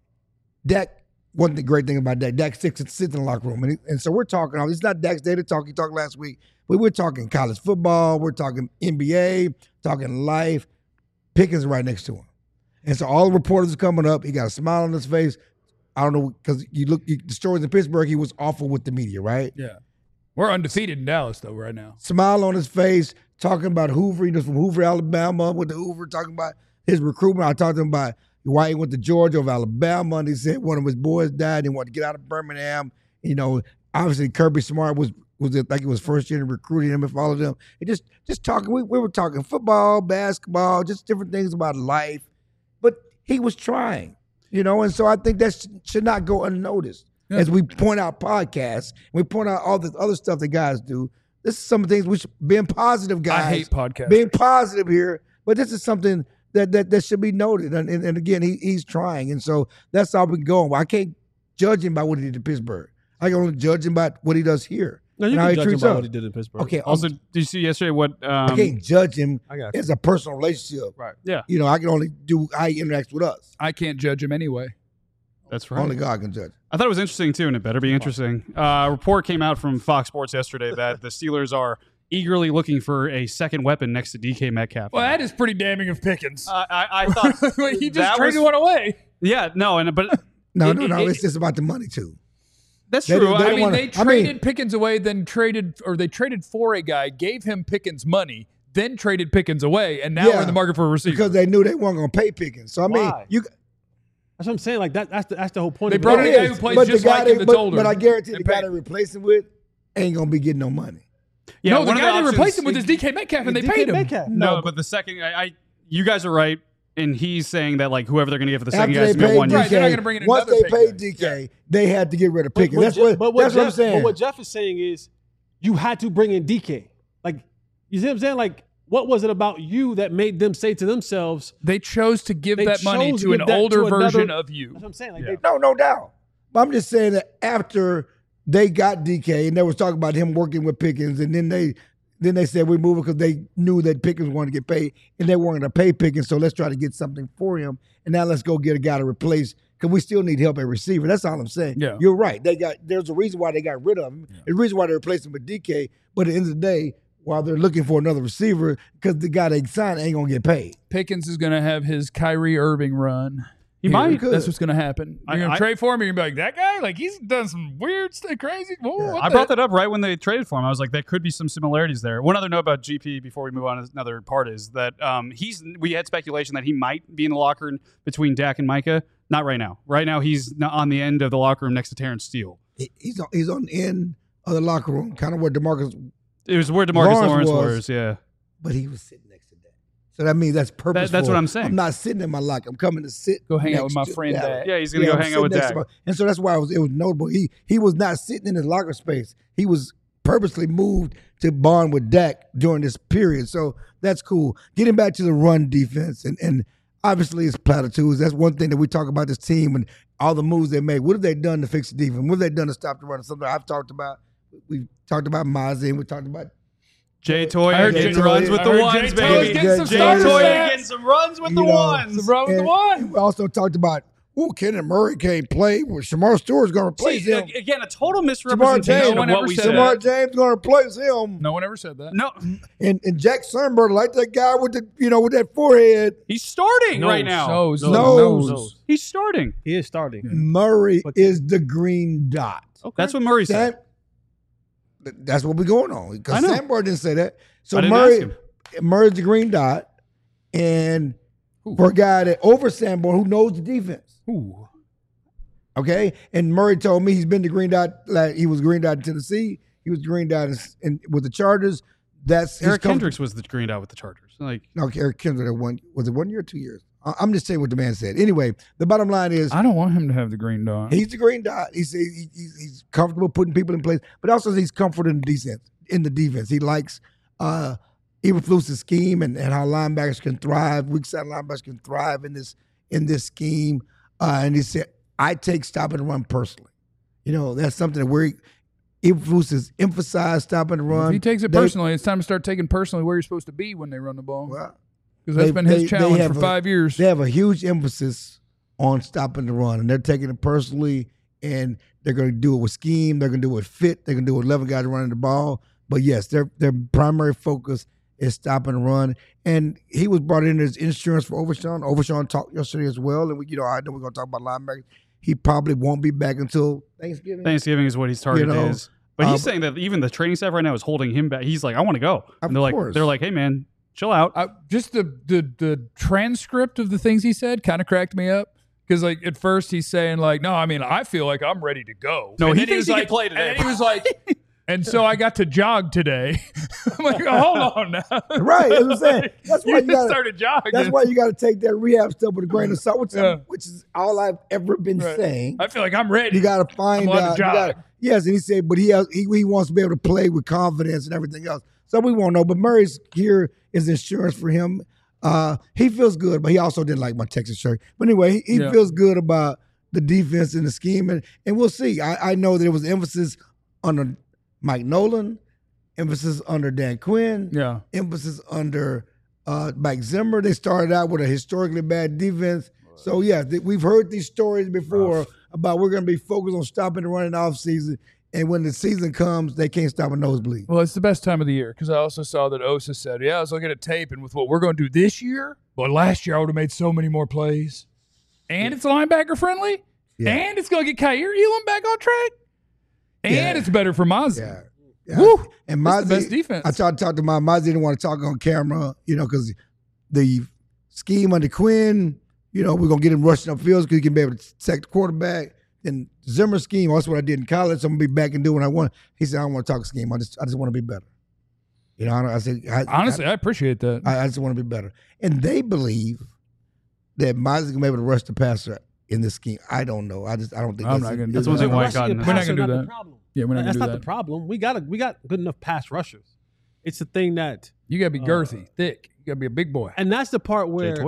Dak wasn't the great thing about Dak. Dak sits in the locker room. And so we're talking, it's not Dak's day to talk. He talked last week. But we're talking college football. We're talking NBA, talking life. Pickens right next to him. And so all the reporters are coming up. He got a smile on his face. I don't know, because the stories in Pittsburgh, he was awful with the media, right? Yeah. We're undefeated in Dallas, though, right now. Smile on his face, talking about Hoover. He was from Hoover, Alabama, went to Hoover, talking about his recruitment. I talked to him about why he went to Georgia over Alabama, and he said one of his boys died. He wanted to get out of Birmingham. You know, obviously Kirby Smart was like it was first year recruiting him and followed them. And just talking, we were talking football, basketball, just different things about life. But he was trying, you know, and so I think that should not go unnoticed. Yeah. As we point out podcasts, we point out all the other stuff that guys do. This is some of the things which being positive, guys. I hate podcasts. Being positive here, but this is something that should be noted. And again, he's trying, and so that's how we go. I can't judge him by what he did in Pittsburgh. I can only judge him by what he does here. No, you can judge him by what he did in Pittsburgh. Okay. Also, did you see yesterday what? I can't judge him as a personal relationship. Right. Yeah. You know, I can only do how he interacts with us. I can't judge him anyway. That's right. Only God can judge. I thought it was interesting, too, and it better be interesting. A report came out from Fox Sports yesterday that the Steelers are eagerly looking for a second weapon next to DK Metcalf. Well, that is pretty damning of Pickens. I thought he just traded one away. Yeah, no, but no. It's just about the money too. That's true. They traded Pickens away, then traded for a guy, gave him Pickens money, then traded Pickens away, and now we're in the market for a receiver because they knew they weren't going to pay Pickens. So I mean, that's what I'm saying. Like that's the whole point. They brought in a guy who plays just like him that's older. But I guarantee the guy they replace him with ain't going to be getting no money. Yeah, no, the guy they replaced him with is DK Metcalf, and they paid him. No, but the second, you guys are right, and he's saying that like whoever they're going to get for the second guy is going to get 1 year. Right, they're not going to bring in once another they paid DK, they had to get rid of Pickens. That's what I'm saying. But what Jeff is saying is, you had to bring in DK. Like, you see what I'm saying? Like, what was it about you that made them say to themselves, they chose to give that money to an older version of you? That's what I'm saying. Like, no doubt. But I'm just saying that after they got DK and they was talking about him working with Pickens, and then they said we're moving because they knew that Pickens wanted to get paid and they weren't going to pay Pickens, so let's try to get something for him. And now let's go get a guy to replace because we still need help at receiver. That's all I'm saying. Yeah. You're right. There's a reason why they got rid of him. Yeah. There's a reason why they replaced him with DK. But at the end of the day, while they're looking for another receiver, because the guy they signed ain't going to get paid. Pickens is going to have his Kyrie Irving run. He might. That's what's going to happen. You're going to trade for him. You're going to be like, that guy? Like, he's done some weird stuff, crazy. Whoa, I brought that up right when they traded for him. I was like, there could be some similarities there. One other note about GP before we move on to another part is that we had speculation that he might be in the locker room between Dak and Micah. Not right now. Right now, he's on the end of the locker room next to Terrence Steele. He's on the end of the locker room, kind of where DeMarcus. It was where DeMarcus Lawrence was, yeah. But he was sitting next to Dak. So that means that's purposeful. That's what I'm saying. I'm not sitting in my locker. I'm coming to sit. Go hang out with my friend Dak. Yeah, he's going to go hang out with Dak. And so that's why it was notable. He was not sitting in his locker space. He was purposely moved to bond with Dak during this period. So that's cool. Getting back to the run defense, and obviously it's platitudes. That's one thing that we talk about this team and all the moves they made. What have they done to fix the defense? What have they done to stop the run? Something I've talked about. We've talked about Mazi, and we talked about Jay Toyer getting runs with the ones, baby. Jay Toyer getting some runs with the ones. We also talked about, Kenneth Murray can't play. Shamar Stewart's going to replace him. Again, a total misrepresentation of what we said. Shamar James going to replace him. No one ever said that. No. And Jack Sernberg, like that guy with with that forehead. He's starting right now. Nose. He's starting. He is starting. Murray is the green dot. Okay. That's what Murray said. That's what we're going on. Because Sandberg didn't say that. So Murray's the green dot. And for a guy that over Sanborn who knows the defense. Ooh. Okay, and Murray told me he's been to Green Dot. Like he was Green Dot in Tennessee. He was Green Dot with the Chargers. That's Eric Kendricks was the Green Dot with the Chargers. Like no, Eric Kendricks was it 1 year or 2 years? I'm just saying what the man said. Anyway, the bottom line is I don't want him to have the green dot. he's the Green Dot. He's comfortable putting people in place, but also he's comfortable in the defense. He likes Eberflus's scheme and how linebackers can thrive. Weak side linebackers can thrive in this scheme. And he said, I take stop and run personally. You know, that's something that Eberflus has emphasized stop and run. If he takes it personally, it's time to start taking personally where you're supposed to be when they run the ball. Well, because that's been his challenge for 5 years. They have a huge emphasis on stopping the run, and they're taking it personally, and they're going to do it with scheme. They're going to do it with fit. They're going to do it with 11 guys running the ball. But, yes, their primary focus is stopping the run. And he was brought in as insurance for Overshawn. Overshawn talked yesterday as well, and I know we're going to talk about linebackers. He probably won't be back until Thanksgiving. Thanksgiving is what his target is. But he's saying that even the training staff right now is holding him back. He's like, I want to go. And they're like, hey, man, chill out. Just the transcript of the things he said kind of cracked me up. Because, like, at first he's saying, like, no, I mean, I feel like I'm ready to go. No, and he thinks he can play today. And then he was like, and so I got to jog today. I'm like, hold on now. Right, as I'm saying. That's why you got started jogging. That's why you got to take that rehab stuff with a grain of salt, which is all I've ever been saying. I feel like I'm ready. You got to find out. Yes, and he said, but he wants to be able to play with confidence and everything else. So we won't know. But Murray's here is insurance for him. He feels good, but he also didn't like my Texas shirt. But anyway, he feels good about the defense and the scheme, and we'll see. I know there was emphasis under Mike Nolan, emphasis under Dan Quinn, emphasis under Mike Zimmer. They started out with a historically bad defense. So, yeah, we've heard these stories before about we're going to be focused on stopping the run in the offseason, and when the season comes, they can't stop a nosebleed. Well, it's the best time of the year because I also saw that Osa said, I was looking at tape, and with what we're going to do this year, but last year I would have made so many more plays. And it's linebacker friendly, and it's going to get Kaiir Elam back on track. And it's better for Mazi. Yeah. Woo! And Mazi, the best defense. I tried to talk to Mazi didn't want to talk on camera, because the scheme under Quinn, we're going to get him rushing up fields because he can be able to sack the quarterback. And Zimmer's scheme, that's what I did in college. So I'm going to be back and do what I want. He said, I don't want to talk scheme. I just want to be better. Honestly, I appreciate that. I just want to be better. And they believe that Mazi's going to be able to rush the passer in this scheme. I don't know. I don't think I'm not going to do that's one thing We're not going to do that. The problem. Yeah, we're not going to do that. That's not the problem. We got good enough pass rushers. It's the thing that you got to be girthy, thick. You got to be a big boy. And that's the part where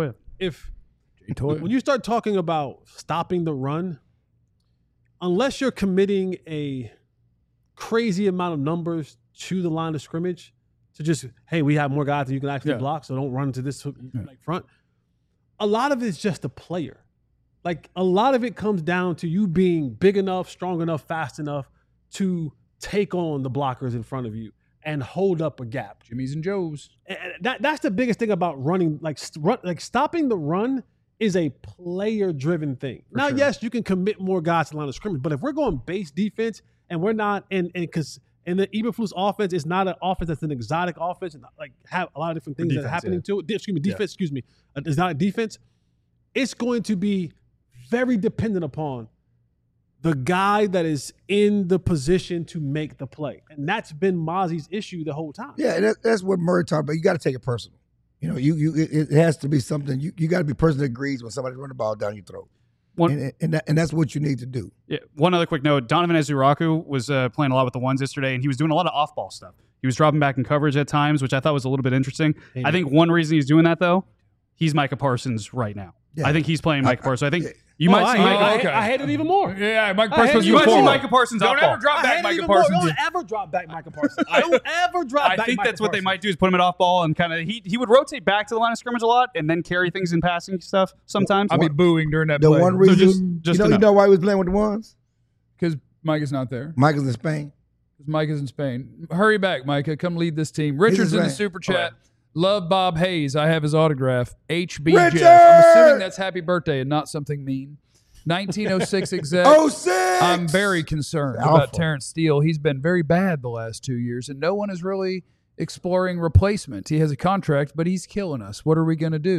when you start talking about stopping the run, unless you're committing a crazy amount of numbers to the line of scrimmage, to just, hey, we have more guys that you can actually block, so don't run to this front. A lot of it's just a player. Like, a lot of it comes down to you being big enough, strong enough, fast enough to take on the blockers in front of you and hold up a gap. Jimmy's and Joe's. And that's the biggest thing about running. Like stopping the run is a player-driven thing. Now, yes, you can commit more guys to the line of scrimmage, but if we're going base defense and we're not, and because the Eberflus offense is not an offense that's an exotic offense, and like have a lot of different things that are happening to it. Defense. It's not a defense. It's going to be very dependent upon the guy that is in the position to make the play. And that's been Mazi's issue the whole time. Yeah, that's what Murray talked about. You got to take it personal. It has to be something. You got to be a person that agrees when somebody's running the ball down your throat. And that's what you need to do. Yeah. One other quick note. Donovan Ezuraku was playing a lot with the ones yesterday, and he was doing a lot of off-ball stuff. He was dropping back in coverage at times, which I thought was a little bit interesting. I think one reason he's doing that, though, he's Micah Parsons right now. Yeah. I think he's playing Micah Parsons. I think you might see I hate it even more. Yeah, Micah Parsons. You might see Micah Parsons. Don't ever drop back Micah Parsons. Don't ever drop back Micah Parsons. Don't ever drop back. I think that's what they might do is put him at off ball and kind of he would rotate back to the line of scrimmage a lot and then carry things in passing stuff sometimes. I'll be booing during that the play. One reason, so you know why he was playing with the ones? Because Micah's not there. Micah's in Spain. Micah's in Spain. Hurry back, Micah. Come lead this team. Richard's in the super chat. Love Bob Hayes. I have his autograph. HB Richard! Jeff. I'm assuming that's happy birthday and not something mean. 1906 exec. 06! I'm very concerned about Terrence Steele. He's been very bad the last 2 years, and no one is really exploring replacement. He has a contract, but he's killing us. What are we going to do?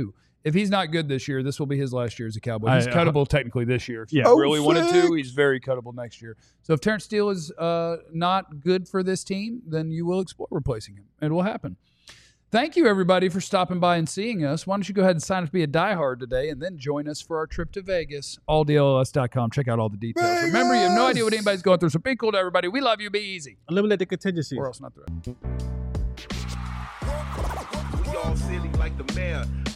if he's not good this year, this will be his last year as a Cowboy. He's I- cuttable technically this year. If Yeah. you really wanted sick. to, he's very cuttable next year. So if Terrence Steele is not good for this team, then you will explore replacing him. It will happen. Thank you, everybody, for stopping by and seeing us. Why don't you go ahead and sign up to be a diehard today and then join us for our trip to Vegas. AllDLS.com. Check out all the details. Vegas! Remember, you have no idea what anybody's going through, so be cool to everybody. We love you. Be easy. Eliminate the contingencies. Or else not the We all silly like the mayor.